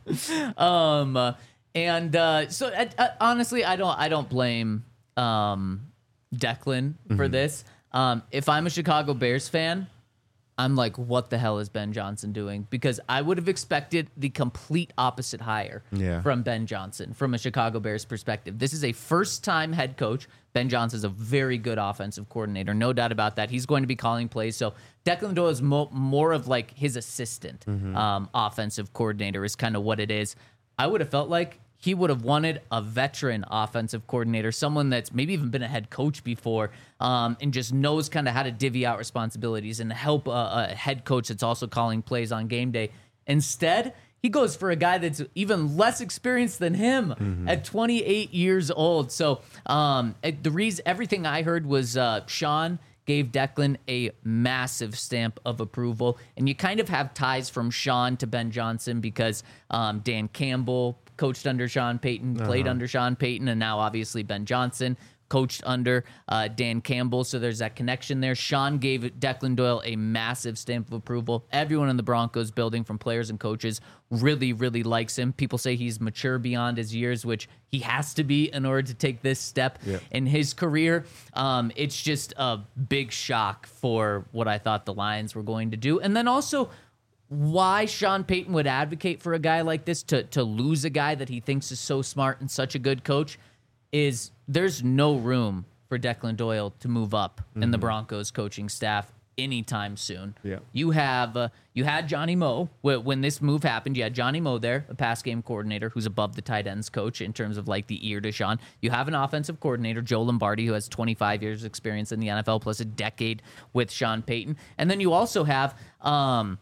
Um, uh, and uh, so uh, uh, honestly, I don't I don't blame um Declan for this. Um, if I'm a Chicago Bears fan, I'm like, what the hell is Ben Johnson doing? Because I would have expected the complete opposite hire Yeah. from Ben Johnson from a Chicago Bears perspective. This is a first-time head coach. Ben Johnson's a very good offensive coordinator, no doubt about that. He's going to be calling plays. So Declan Doyle is mo- more of like his assistant um, offensive coordinator is kind of what it is. I would have felt like he would have wanted a veteran offensive coordinator, someone that's maybe even been a head coach before, um, and just knows kind of how to divvy out responsibilities and help a, a head coach that's also calling plays on game day. Instead, he goes for a guy that's even less experienced than him mm-hmm. at twenty-eight years old. So um, the reason everything I heard was uh, Sean gave Declan a massive stamp of approval, and you kind of have ties from Sean to Ben Johnson because um, Dan Campbell coached under Sean Payton, played Uh-huh. under Sean Payton, and now obviously Ben Johnson coached under uh, Dan Campbell. So there's that connection there. Sean gave Declan Doyle a massive stamp of approval. Everyone in the Broncos building, from players and coaches, really, really likes him. People say he's mature beyond his years, which he has to be in order to take this step Yep. in his career. Um, it's just a big shock for what I thought the Lions were going to do. And then also, why Sean Payton would advocate for a guy like this to to lose a guy that he thinks is so smart and such a good coach is there's no room for Declan Doyle to move up mm-hmm. in the Broncos coaching staff anytime soon. Yeah. You have uh, you had Johnny Moe when this move happened. You had Johnny Moe there, a pass game coordinator who's above the tight ends coach in terms of like the ear to Sean. You have an offensive coordinator, Joe Lombardi, who has twenty-five years experience in the N F L plus a decade with Sean Payton. And then you also have um,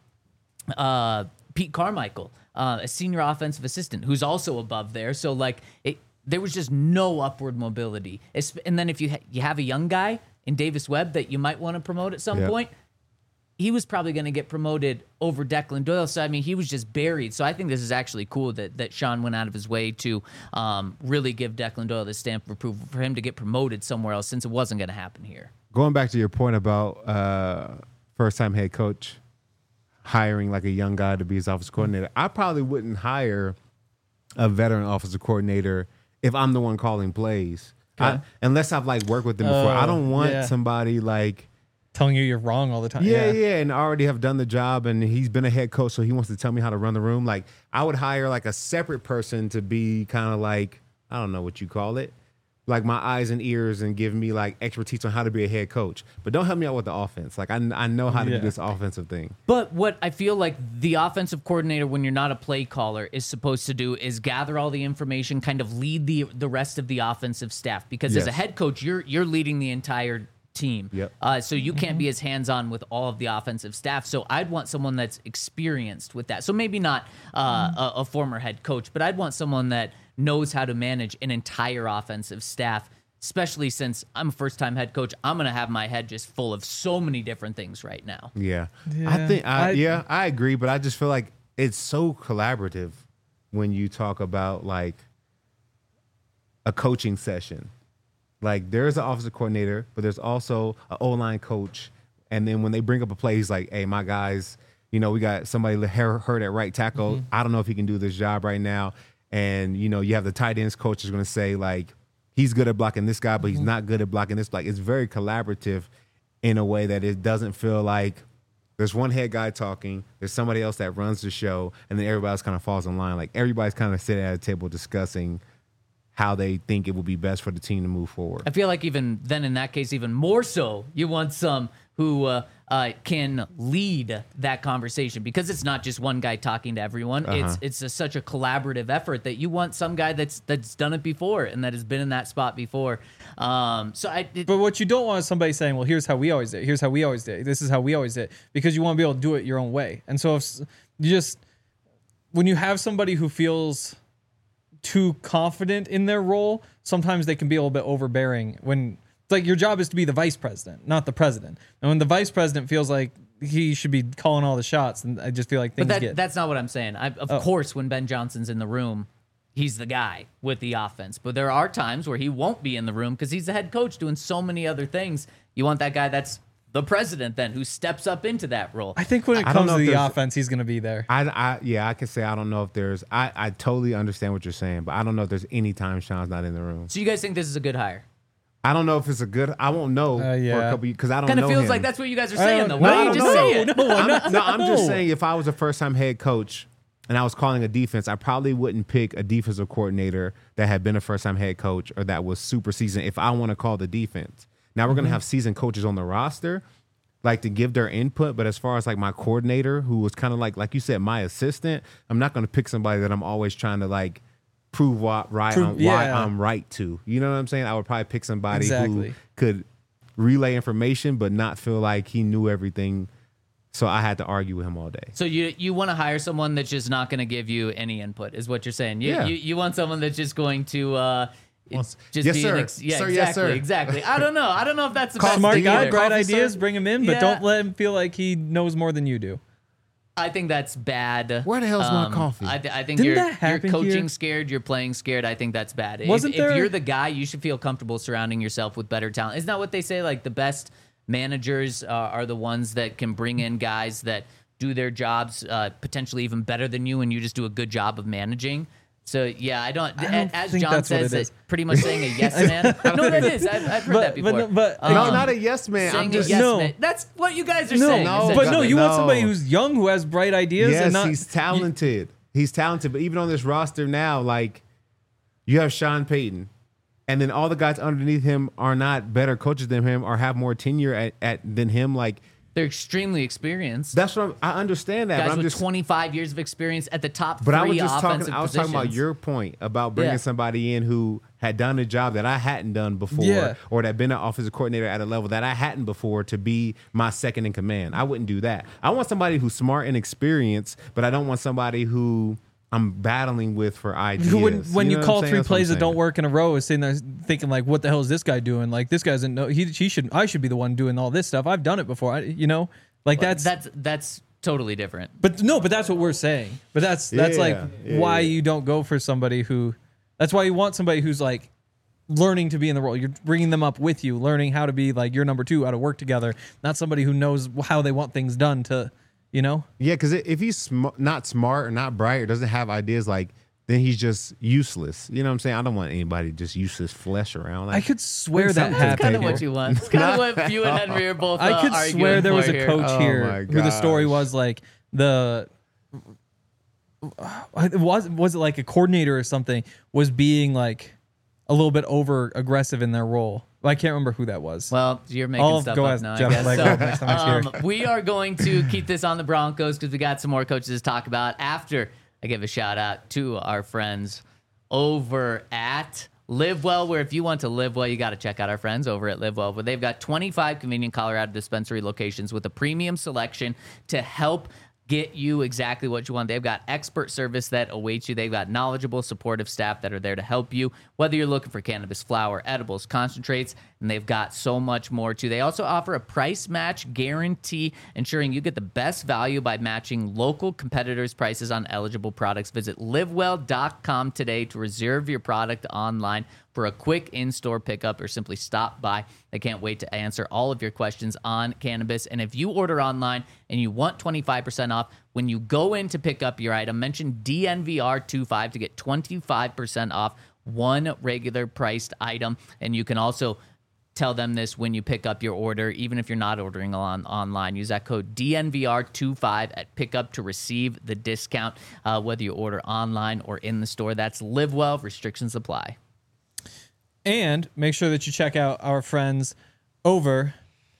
uh, Pete Carmichael, uh, a senior offensive assistant who's also above there. So like it, there was just no upward mobility. It's, and then if you ha- you have a young guy in Davis Webb that you might want to promote at some Yep. point, he was probably going to get promoted over Declan Doyle. So I mean, he was just buried. So I think this is actually cool that that Sean went out of his way to um, really give Declan Doyle the stamp of approval for him to get promoted somewhere else, since it wasn't going to happen here. Going back to your point about uh, first-time head coach hiring like a young guy to be his offensive coordinator, I probably wouldn't hire a veteran offensive coordinator if I'm the one calling plays. Okay. I, unless I've like worked with them before. Oh, I don't want yeah. somebody like Telling you you're wrong all the time. yeah, yeah, and already have done the job, and he's been a head coach, so he wants to tell me how to run the room. Like I would hire like a separate person to be kind of like, I don't know what you call it, like my eyes and ears, and give me like expertise on how to be a head coach. But don't help me out with the offense. Like I, I know how to Yeah. do this offensive thing. But what I feel like the offensive coordinator, when you're not a play caller, is supposed to do is gather all the information, kind of lead the the rest of the offensive staff. Because as a Yes. head coach, you're you're leading the entire team. Yep. Uh, so you can't be as hands-on with all of the offensive staff. So I'd want someone that's experienced with that. So maybe not uh, a, a former head coach, but I'd want someone that knows how to manage an entire offensive staff, especially since I'm a first-time head coach. I'm going to have my head just full of so many different things right now. Yeah, I Yeah. think I, I- yeah I agree, but I just feel like it's so collaborative when you talk about like a coaching session. Like there's an offensive coordinator, but there's also an O-line coach, and then when they bring up a play, he's like, "Hey, my guys, you know, we got somebody hurt at right tackle. Mm-hmm. I don't know if he can do this job right now." And you know, you have the tight ends coach is going to say like, "He's good at blocking this guy, but he's Mm-hmm. not good at blocking this." Like it's very collaborative in a way that it doesn't feel like There's one head guy talking. There's somebody else that runs the show, and then everybody else kind of falls in line. Like everybody's kind of sitting at a table discussing how they think it would be best for the team to move forward. I feel like even then, in that case, even more so, you want some who uh, uh, can lead that conversation, because it's not just one guy talking to everyone. Uh-huh. It's it's a, such a collaborative effort that you want some guy that's that's done it before and that has been in that spot before. Um, so I. It, But what you don't want is somebody saying, "Well, here's how we always did. Here's how we always did. This is how we always did," because you want to be able to do it your own way. And so if s- you just when you have somebody who feels too confident in their role, sometimes they can be a little bit overbearing. When it's like your job is to be the vice president, not the president. And when the vice president feels like he should be calling all the shots, and I just feel like things But that, get. that's not what I'm saying. I, of Oh. course, when Ben Johnson's in the room, he's the guy with the offense. But there are times where he won't be in the room because he's the head coach doing so many other things. You want that guy that's the president then, who steps up into that role. I think when it I don't comes know to if the there's- offense, he's going to be there. I, I, yeah, I can say I don't know if there's. I, I totally understand what you're saying, but I don't know if there's any time Sean's not in the room. So you guys think this is a good hire? I don't know if it's a good. I won't know Uh, for yeah. a couple because I don't Kind know of feels him. like that's what you guys are I saying, don't- though. no, Why I don't you don't just know. say it? No, I'm not- I'm, no, I'm just no. saying if I was a first time head coach and I was calling a defense, I probably wouldn't pick a defensive coordinator that had been a first time head coach or that was super seasoned if I want to call the defense. Now we're Mm-hmm. going to have seasoned coaches on the roster, like to give their input. But as far as like my coordinator, who was kind of like, like you said, my assistant, I'm not going to pick somebody that I'm always trying to like prove what right Prove- I'm, why yeah. I'm right to. You know what I'm saying? I would probably pick somebody Exactly. who could relay information but not feel like he knew everything. So I had to argue with him all day. So you you want to hire someone that's just not going to give you any input, is what you're saying. You Yeah. you, you want someone that's just going to uh, just yes, be sir. an ex- yeah, Sir, exactly, yes, sir. exactly. I don't know. I don't know if that's the Call best Smart thing guy, either. bright Coffee, ideas, sir? bring him in, but Yeah. don't let him feel like he knows more than you do. I think that's bad. Um, Where the hell's my coffee? I, th- I think Didn't you're, that you're happen coaching here? scared, you're playing scared. I think that's bad. If- Wasn't if, there- you're the guy, you should feel comfortable surrounding yourself with better talent. Isn't that what they say? Like the best managers uh, are the ones that can bring in guys that do their jobs uh, potentially even better than you, and you just do a good job of managing. So yeah, I don't. I don't a- as think John that's what says, it is. that pretty much saying a yes man. No, that is. I've, I've heard But- that before. but- but- Um, no, not a yes man. saying I'm a just yes No. man. That's what you guys are No, saying. no, but no, essentially. you want No. somebody who's young, who has bright ideas, yes, and not. he's talented. He's talented. But even on this roster now, like you have Sean Payton, and then all the guys underneath him are not better coaches than him or have more tenure at, at than him. Like They're extremely experienced. that's what I'm, I understand that. Guys but I'm with just twenty-five years of experience at the top But three I was just offensive talking. I was positions. talking about your point about bringing Yeah. somebody in who had done a job that I hadn't done before, Yeah. or that been an offensive coordinator at a level that I hadn't before to be my second in command. I wouldn't do that. I want somebody who's smart and experienced, but I don't want somebody who I'm battling with for ideas. Who when when you, know what call I'm saying? three That's what I'm plays that don't saying. work in a row is sitting there thinking like, what the hell is this guy doing? Like this guy doesn't know. He he should I should be the one doing all this stuff. I've done it before. I, you know, like that's that's that's totally different. But no, but that's what we're saying. But that's that's Yeah, like yeah, why yeah. you don't go for somebody who. That's why you want somebody who's like learning to be in the role. You're bringing them up with you, learning how to be like your number two, how to work together. Not somebody who knows how they want things done. To, you know. Yeah, because if he's sm- not smart or not bright or doesn't have ideas, like then he's just useless. You know what I'm saying? I don't want anybody just useless flesh around. Like, I could swear bring that something to the That's happened. kind of table. what you want. It's kind of what you and Henry are both. Uh, I could arguing swear there for was a here. coach Oh here my who the story gosh. was like the it was was it like a coordinator or something was being like a little bit over aggressive in their role. I can't remember who that was. Well, you're making I'll stuff go up ask now. Jeff I guess. Lego So, next time he's here. um, we are going to keep this on the Broncos because we got some more coaches to talk about after I give a shout out to our friends over at Live Well, where if you want to live well, you got to check out our friends over at Live Well, where they've got twenty-five convenient Colorado dispensary locations with a premium selection to help get you exactly what you want. They've got expert service that awaits you. They've got knowledgeable, supportive staff that are there to help you, whether you're looking for cannabis flower, edibles, concentrates, and they've got so much more too. They also offer a price match guarantee, ensuring you get the best value by matching local competitors' prices on eligible products. Visit live well dot com today to reserve your product online for a quick in-store pickup, or simply stop by. They can't wait to answer all of your questions on cannabis. And if you order online and you want twenty-five percent off, when you go in to pick up your item, mention D N V R twenty-five to get twenty-five percent off one regular priced item. And you can also tell them this when you pick up your order, even if you're not ordering on online. Use that code D N V R twenty-five at pickup to receive the discount, uh, whether you order online or in the store. That's Live Well. Restrictions apply. And make sure that you check out our friends over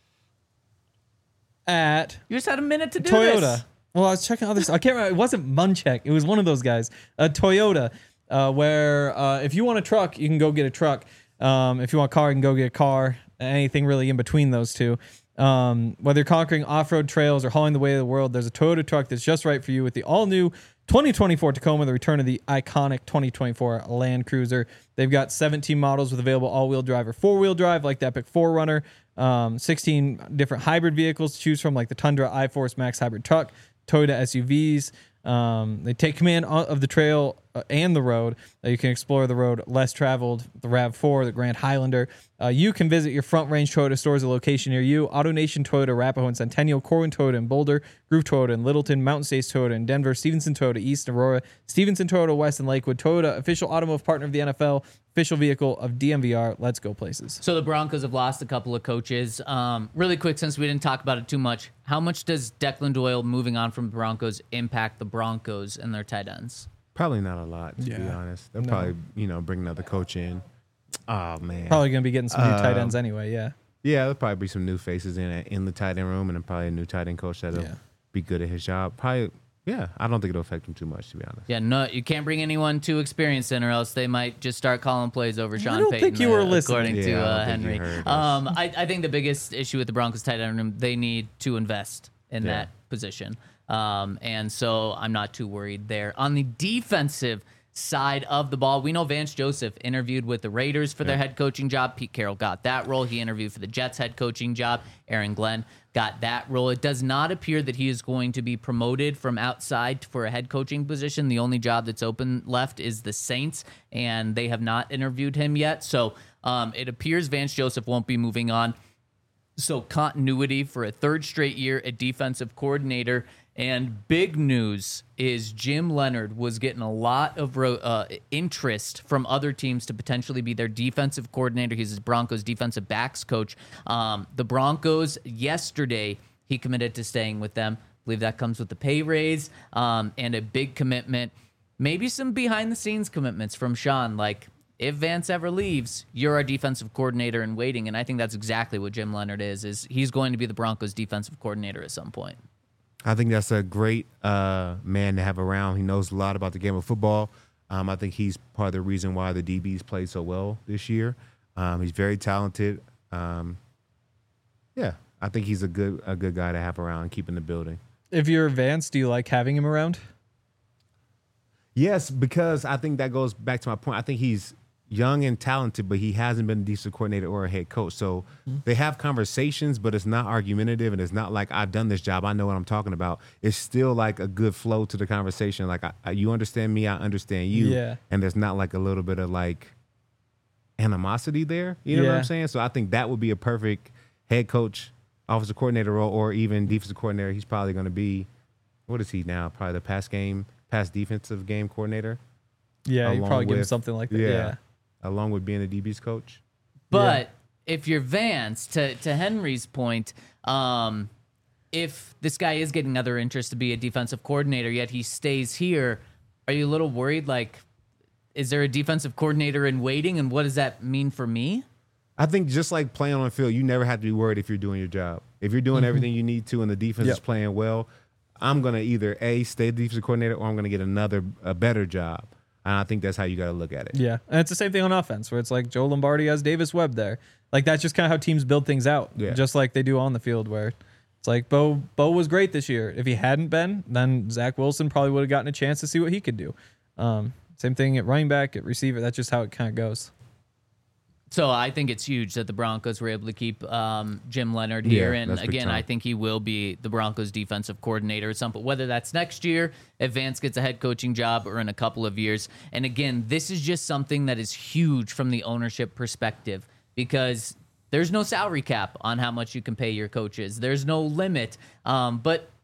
at You just had a minute to do Toyota. this. Well, I was checking other stuff. I can't remember. It wasn't Munchak. It was one of those guys. Uh, Toyota, uh, where uh, if you want a truck, you can go get a truck. Um, if you want a car, you can go get a car. Anything really in between those two. Um, whether you're conquering off-road trails or hauling the way of the world, there's a Toyota truck that's just right for you with the all-new twenty twenty-four Tacoma, the return of the iconic twenty twenty-four Land Cruiser. They've got seventeen models with available all-wheel drive or four-wheel drive, like the Epic four runner. Um, sixteen different hybrid vehicles to choose from, like the Tundra iForce Max hybrid truck, Toyota S U Vs. Um, they take command of the trail uh, and the road. Uh, you can explore the road less traveled, the RAV four, the Grand Highlander. Uh, you can visit your Front Range Toyota stores, a location near you. AutoNation Toyota, Arapahoe and Centennial, Corwin Toyota in Boulder, Groove Toyota in Littleton, Mountain States Toyota in Denver, Stevenson Toyota East in Aurora, Stevenson Toyota West in Lakewood. Toyota, official automotive partner of the N F L, official vehicle of D M V R. Let's go places. So the Broncos have lost a couple of coaches. Um, really quick, since we didn't talk about it too much, how much does Declan Doyle moving on from the Broncos impact the Broncos and their tight ends? Probably not a lot, to be Yeah. honest. They'll No. probably, you know, bring another coach in. Oh, man. Probably going to be getting some new tight Um, ends anyway, yeah. Yeah, there'll probably be some new faces in in the tight end room, and then probably a new tight end coach that'll Yeah. be good at his job. Probably, yeah. I don't think it'll affect him too much, to be honest. Yeah, no, you can't bring anyone too experienced in, or else they might just start calling plays over Sean don't Payton. think you were uh, listening. according Yeah, to I don't uh, think you Henry. heard us. Um, I, I think the biggest issue with the Broncos tight end room, they need to invest in Yeah. that position, um, and so I'm not too worried there. On the defensive side of the ball, we know Vance Joseph interviewed with the Raiders for their head coaching job. Pete Carroll got that role. He interviewed for the Jets head coaching job. Aaron Glenn got that role. It does not appear that he is going to be promoted from outside for a head coaching position. The only job that's open left is the Saints, and they have not interviewed him yet. So um, it appears Vance Joseph won't be moving on. So continuity for a third straight year at defensive coordinator. And big news is Jim Leonard was getting a lot of uh, interest from other teams to potentially be their defensive coordinator. He's the Broncos defensive backs coach. Um, the Broncos, yesterday, he committed to staying with them. I believe that comes with the pay raise um, and a big commitment. Maybe some behind-the-scenes commitments from Sean, like, if Vance ever leaves, you're our defensive coordinator in waiting. And I think that's exactly what Jim Leonard is, is he's going to be the Broncos defensive coordinator at some point. I think that's a great uh, man to have around. He knows a lot about the game of football. Um, I think he's part of the reason why the D Bs played so well this year. Um, he's very talented. Um, yeah, I think he's a good a good guy to have around and keep in the building. If you're Vance, do you like having him around? Yes, because I think that goes back to my point. I think he's young and talented, but he hasn't been a defensive coordinator or a head coach. So mm-hmm. they have conversations, but it's not argumentative, and it's not like I've done this job, I know what I'm talking about. It's still like a good flow to the conversation. Like I, I, you understand me, I understand you. Yeah. And there's not like a little bit of like animosity there. You know yeah. what I'm saying? So I think that would be a perfect head coach, offensive coordinator role, or even defensive coordinator. He's probably going to be, what is he now? Probably the pass game, pass defensive game coordinator. Yeah, you probably give him with- something like that. yeah. Yeah. Along with being a D B's coach. But if you're Vance, to, to Henry's point, um, if this guy is getting other interest to be a defensive coordinator, yet he stays here, are you a little worried? Like, is there a defensive coordinator in waiting, and what does that mean for me? I think just like playing on the field, you never have to be worried if you're doing your job. If you're doing mm-hmm. everything you need to and the defense Yep. is playing well, I'm going to either, A, stay the defensive coordinator, or I'm going to get another, a better job. And I think that's how you got to look at it. Yeah, and it's the same thing on offense, where it's like Joe Lombardi has Davis Webb there. Like that's just kind of how teams build things out, Yeah. just like they do on the field. Where it's like Bo, Bo was great this year. If he hadn't been, then Zach Wilson probably would have gotten a chance to see what he could do. Um, same thing at running back, at receiver. That's just how it kind of goes. So I think it's huge that the Broncos were able to keep um, Jim Leonard here. Yeah, and that's big again, time. I think he will be the Broncos defensive coordinator at some point, whether that's next year, if Vance gets a head coaching job, or in a couple of years. And again, this is just something that is huge from the ownership perspective, because there's no salary cap on how much you can pay your coaches. There's no limit. Um, but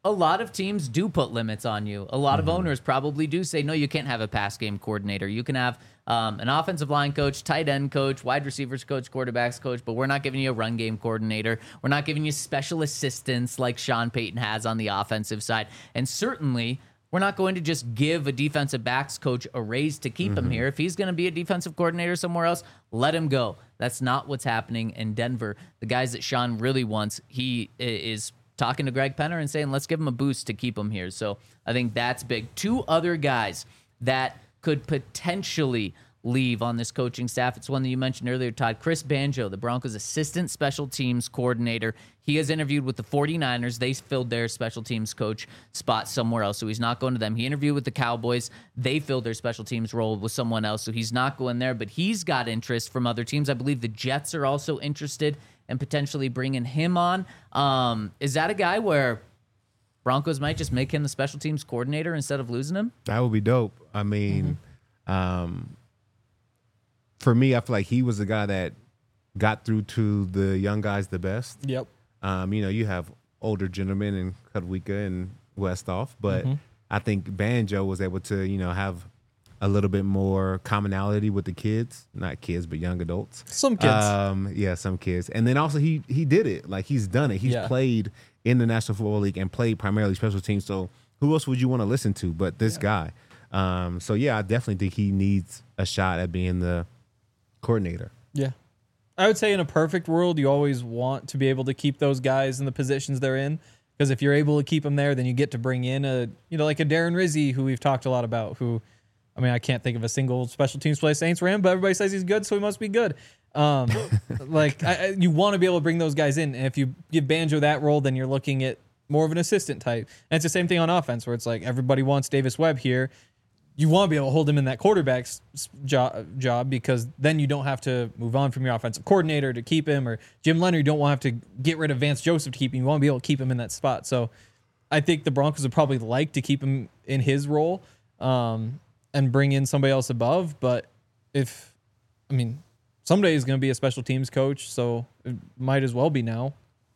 a lot of teams do put limits on you. A lot Mm-hmm. of owners probably do say, no, you can't have a pass game coordinator. You can have um, an offensive line coach, tight end coach, wide receivers coach, quarterbacks coach, but we're not giving you a run game coordinator. We're not giving you special assistants like Sean Payton has on the offensive side. And certainly, we're not going to just give a defensive backs coach a raise to keep him here. If he's going to be a defensive coordinator somewhere else, let him go. That's not what's happening in Denver. The guys that Sean really wants, he i- is talking to Greg Penner and saying, let's give him a boost to keep him here. So I think that's big. Two other guys that could potentially leave on this coaching staff. It's one that you mentioned earlier, Todd. Chris Banjo, the Broncos' assistant special teams coordinator. He has interviewed with the 49ers. They filled their special teams coach spot somewhere else, so he's not going to them. He interviewed with the Cowboys. They filled their special teams role with someone else, so he's not going there, but he's got interest from other teams. I believe the Jets are also interested in potentially bringing him on. Um, is that a guy where Broncos might just make him the special teams coordinator instead of losing him? That would be dope. I mean, um, for me, I feel like he was the guy that got through to the young guys the best. Yep. Um, you know, you have older gentlemen in Kudwika and Westhoff, but I think Banjo was able to, you know, have a little bit more commonality with the kids, not kids, but young adults. Some kids. Um, yeah, some kids. And then also he he did it. Like he's done it. He's Yeah. played in the National Football League and played primarily special teams. So who else would you want to listen to but this guy? Um, so yeah, I definitely think he needs a shot at being the coordinator. Yeah. I would say in a perfect world, you always want to be able to keep those guys in the positions they're in. Because if you're able to keep them there, then you get to bring in a, you know, like a Darren Rizzi, who we've talked a lot about, who, I mean, I can't think of a single special teams play Saints ran, but everybody says he's good, so he must be good. Um, like, I, I, you want to be able to bring those guys in. And if you give Banjo that role, then you're looking at more of an assistant type. And it's the same thing on offense, where it's like everybody wants Davis Webb here. You want to be able to hold him in that quarterback's job, job because then you don't have to move on from your offensive coordinator to keep him, or Jim Leonard, you don't want to have to get rid of Vance Joseph to keep him. You want to be able to keep him in that spot. So I think the Broncos would probably like to keep him in his role um, and bring in somebody else above. But if, I mean, someday he's going to be a special teams coach, so it might as well be now.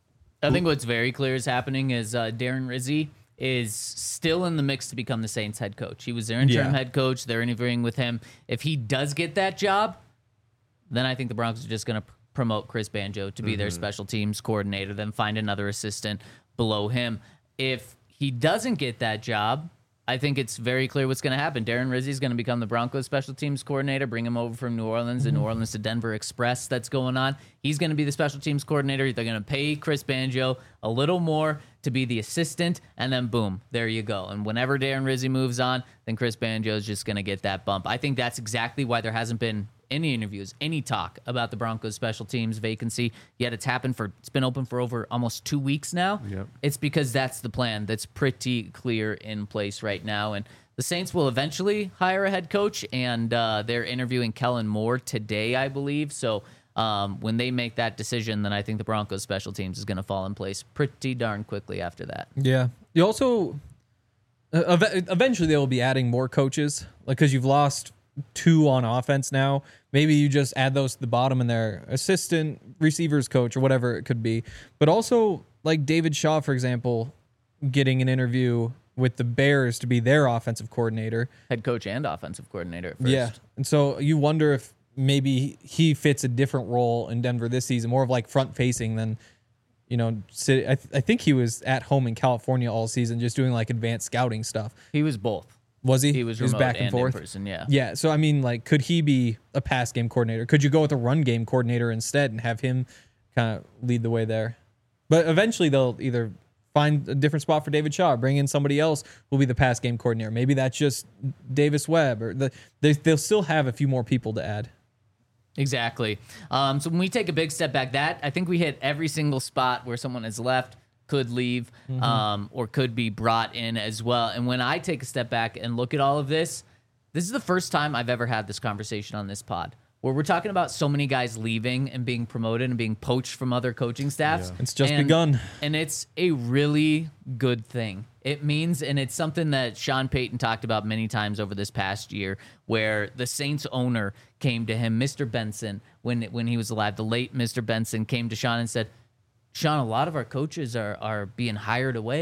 I think what's very clear is happening is uh, Darren Rizzi is still in the mix to become the Saints head coach. He was their interim Yeah. head coach. They're interviewing with him. If he does get that job, then I think the Broncos are just going to pr- promote Chris Banjo to be their special teams coordinator, then find another assistant below him. If he doesn't get that job, I think it's very clear what's going to happen. Darren Rizzi is going to become the Broncos special teams coordinator, bring him over from New Orleans, the New Orleans to Denver Express that's going on. He's going to be the special teams coordinator. They're going to pay Chris Banjo a little more to be the assistant, and then boom, there you go. And whenever Darren Rizzi moves on, then Chris Banjo is just going to get that bump. I think that's exactly why there hasn't been any interviews, any talk about the Broncos special teams vacancy. Yet it's happened for, it's been open for over almost two weeks now. Yep. It's because that's the plan that's pretty clear in place right now. And the Saints will eventually hire a head coach, and uh, they're interviewing Kellen Moore today, I believe. So um, when they make that decision, then I think the Broncos special teams is going to fall in place pretty darn quickly after that. Yeah. You also, uh, ev- eventually they will be adding more coaches, like, because you've lost two on offense now. Maybe you just add those to the bottom and their assistant receivers coach or whatever it could be. But also, like David Shaw, for example, getting an interview with the Bears to be their offensive coordinator. Head coach and offensive coordinator at first. Yeah. And so you wonder if maybe he fits a different role in Denver this season, more of like front facing than, you know, sit, I, th- I think he was at home in California all season just doing like advanced scouting stuff. He was both. Was he? He was remote back and, and forth. in person, yeah. Yeah. So I mean, like, could he be a pass game coordinator? Could you go with a run game coordinator instead and have him kind of lead the way there? But eventually they'll either find a different spot for David Shaw, or bring in somebody else who will be the pass game coordinator. Maybe that's just Davis Webb, or the they, they'll still have a few more people to add. Exactly. Um, so when we take a big step back, that I think we hit every single spot where someone has left, could leave, Mm-hmm. um, or could be brought in as well. And when I take a step back and look at all of this, this is the first time I've ever had this conversation on this pod, where we're talking about so many guys leaving and being promoted and being poached from other coaching staffs. It's just And- begun. And it's a really good thing. It means, and it's something that Sean Payton talked about many times over this past year, where the Saints owner came to him, Mister Benson, when when he was alive, the late Mister Benson came to Sean and said, Sean, a lot of our coaches are are being hired away.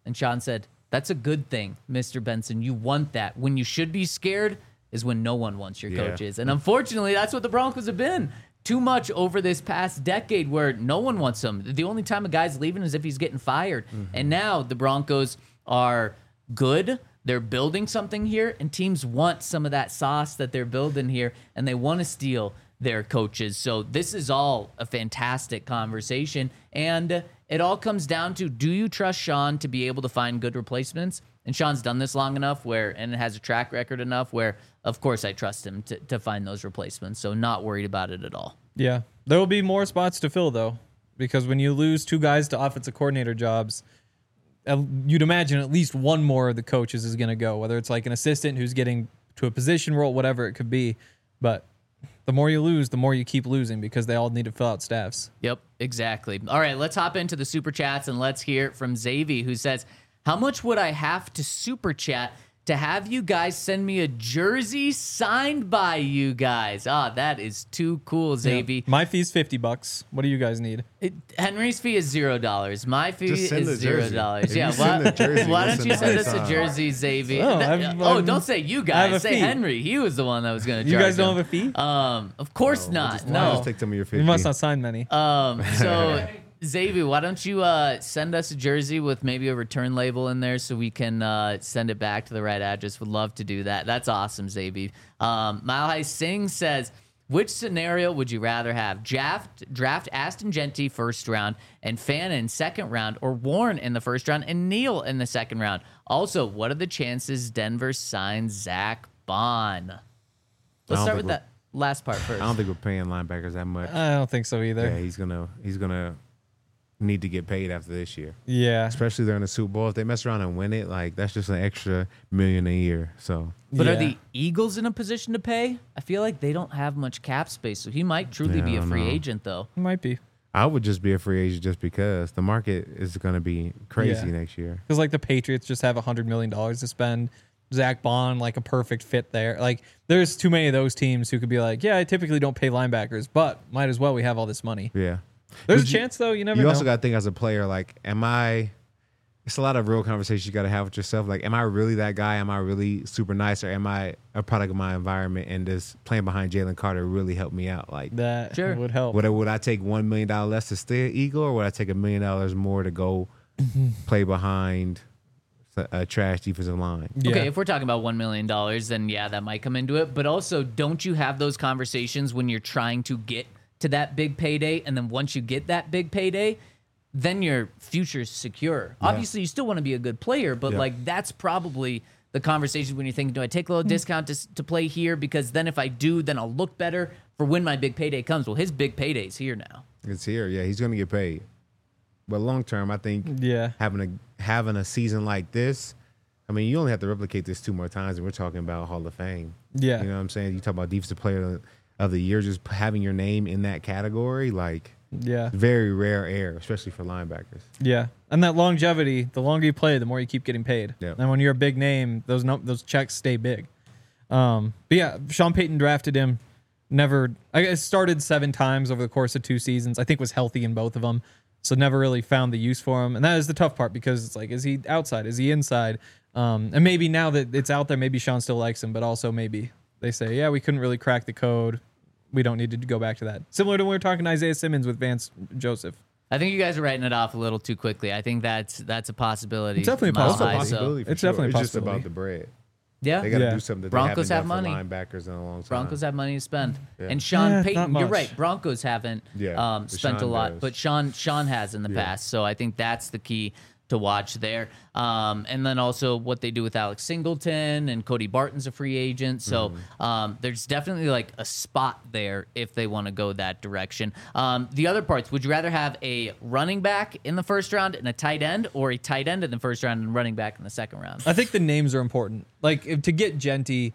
And Sean said, that's a good thing, Mister Benson. You want that. When you should be scared is when no one wants your Yeah. coaches. And unfortunately, that's what the Broncos have been. Too much over this past decade where no one wants him. The only time a guy's leaving is if he's getting fired. Mm-hmm. And now the Broncos are good. They're building something here, and teams want some of that sauce that they're building here, and they want to steal their coaches. So this is all a fantastic conversation, and it all comes down to, do you trust Sean to be able to find good replacements? And Sean's done this long enough where, and it has a track record enough where, of course, I trust him to, to find those replacements. So not worried about it at all. Yeah. There will be more spots to fill, though, because when you lose two guys to offensive coordinator jobs, uh, you'd imagine at least one more of the coaches is going to go, whether it's like an assistant who's getting to a position role, whatever it could be. But the more you lose, the more you keep losing because they all need to fill out staffs. Yep, exactly. All right, let's hop into the super chats and let's hear it from Xavier, who says, how much would I have to super chat to have you guys send me a jersey signed by you guys? Ah, that is too cool, Xavier. My fee's fifty bucks. What do you guys need? It, Henry's fee is zero dollars. My fee Just send is the zero jersey. dollars. If Yeah, you send why, the jersey, why we'll don't send you the send us price a on. jersey, Xavier? Oh, That- I'm- oh, I'm- don't say you I have guys. a Say fee. Henry. He was the one that was going to You charge guys don't him. have a fee? Um, of course We'll not. just, no. I'll just take some of your fifty. You must not sign many. Um, so Xavier, why don't you uh, send us a jersey with maybe a return label in there so we can uh, send it back to the right address? Would love to do that. That's awesome, Xavier. Um, Mile High Singh says, which scenario would you rather have? Draft, draft Aston Genty first round and Fannin second round, or Warren in the first round and Neal in the second round? Also, what are the chances Denver signs Zach Bond? Let's don't start think with we're- that last part first. I don't think we're paying linebackers that much. I don't think so either. Yeah, he's gonna he's gonna need to get paid after this year. Yeah. Especially they're in the Super Bowl. If they mess around and win it, like that's just an extra million a year. So But Yeah. are the Eagles in a position to pay? I feel like they don't have much cap space, so he might truly Yeah, be I a don't free know. agent, though. It might be. I would just be a free agent just because the market is gonna be crazy Yeah. next year. Because like the Patriots just have a hundred million dollars to spend. Zach Bond, like a perfect fit there. Like there's too many of those teams who could be like, yeah, I typically don't pay linebackers, but might as well. We have all this money. Yeah. There's a But you- chance though. You never You know. also got to think as a player, like, am I? It's a lot of real conversations you got to have with yourself. Like, am I really that guy? Am I really super nice, or am I a product of my environment? And does playing behind Jalen Carter really help me out? Like, that Sure. would help. would I, would I take one million dollars less to stay an Eagle, or would I take a million dollars more to go play behind a, a trash defensive line? Yeah. Okay, if we're talking about one million dollars, then yeah, that might come into it. But also, don't you have those conversations when you're trying to get to that big payday? And then once you get that big payday, then your future's secure. Obviously, you still want to be a good player, but Yeah. like that's probably the conversation when you're thinking, do I take a little discount to, s- to play here? Because then if I do, then I'll look better for when my big payday comes. Well, his big payday's here now. It's here. Yeah, he's going to get paid. But long term, I think Yeah. having a having a season like this, I mean, you only have to replicate this two more times, and we're talking about Hall of Fame. Yeah. You know what I'm saying? You talk about defensive player of the year, just having your name in that category, like Yeah. very rare air, especially for linebackers. Yeah. And that longevity, the longer you play, the more you keep getting paid. Yeah. And when you're a big name, those no, those checks stay big. Um, but yeah, Sean Payton drafted him. Never, I guess, started seven times over the course of two seasons. I think was healthy in both of them. So never really found the use for him. And that is the tough part because it's like, is he outside? Is he inside? Um, and maybe now that it's out there, maybe Sean still likes him, but also maybe they say, yeah, we couldn't really crack the code. We don't need to go back to that. Similar to when we were talking to Isaiah Simmons with Vance Joseph. I think you guys are writing it off a little too quickly. I think that's that's a possibility. It's definitely a Mile It's a High, so- possibility for It's sure. definitely a It's just possibility. about the bread. Yeah. They got to Yeah. do something that Broncos they have haven't done money. for linebackers in a long time. Broncos have money to spend, Yeah. and Sean Eh, Payton. not You're much. right. Broncos haven't Yeah, um, but spent a Sean lot, does. but Sean Sean has in the Yeah. past. So I think that's the key to watch there. Um, and then also what they do with Alex Singleton and Cody Barton's a free agent. So Mm-hmm. um, there's definitely like a spot there if they want to go that direction. Um, the other parts, would you rather have a running back in the first round and a tight end, or a tight end in the first round and running back in the second round? I think the names are important. Like if, to get Genty,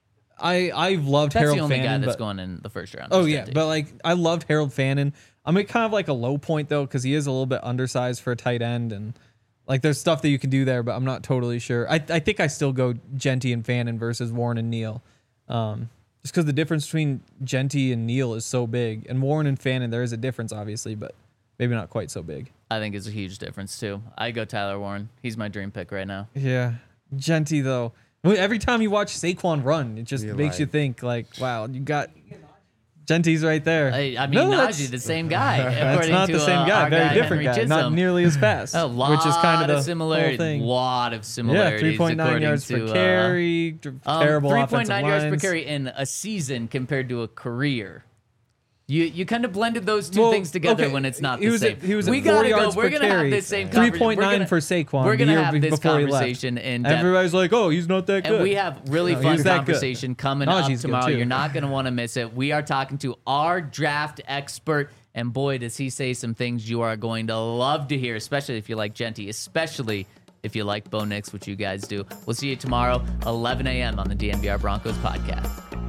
I I've loved That's Harold the only Fannin. guy that's but, going in the first round. oh is yeah, Genty. but like I loved Harold Fannin. I'm at kind of like a low point though because he is a little bit undersized for a tight end, and like there's stuff that you can do there, but I'm not totally sure. I I think I still go Genty and Fannin versus Warren and Neal, um, just because the difference between Genty and Neal is so big, and Warren and Fannin there is a difference obviously, but maybe not quite so big. I think is a huge difference too. I go Tyler Warren. He's my dream pick right now. Yeah. Genty, though. Well, every time you watch Saquon run, it just You're makes like- you think, like, wow, you got Genty's right there. I, I mean, No, Najee, that's- the same guy. That's according not to, the same uh, guy. our Very guy, different Henry guy. Not Chisholm. nearly as fast. A lot which is kind of the whole similarity. thing. Lot of Yeah, similarities. three point nine according yards to, per uh, carry. d- um, terrible three point offensive nine yards per lines. carry in a season compared to a career. You you kind of blended those two Well, things together okay, when it's not he the was same. at- he was at we four gotta yards go. We're per gonna carry. have this same three conversation. point We're nine gonna- for Saquon. We're the gonna year have be- this before he left. conversation in depth. Everybody's like, "Oh, he's not that good." And we have really No, fun he's that good. conversation coming Najee's up good tomorrow. too. You're not going to want to miss it. We are talking to our draft expert, and boy, does he say some things you are going to love to hear, especially if you like Genty, especially if you like Bo Nix, which you guys do. We'll see you tomorrow, eleven a.m. on the D N V R Broncos podcast.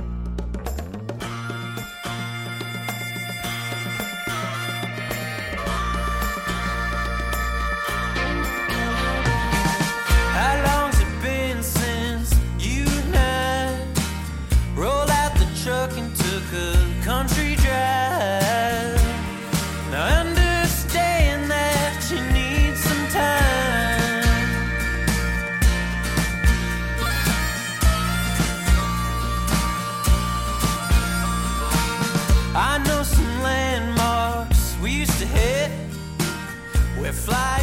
How long's it been since you and I rolled out the truck and took a country drive? Now understand that you need some time. I know some landmarks we used to hit. We're flying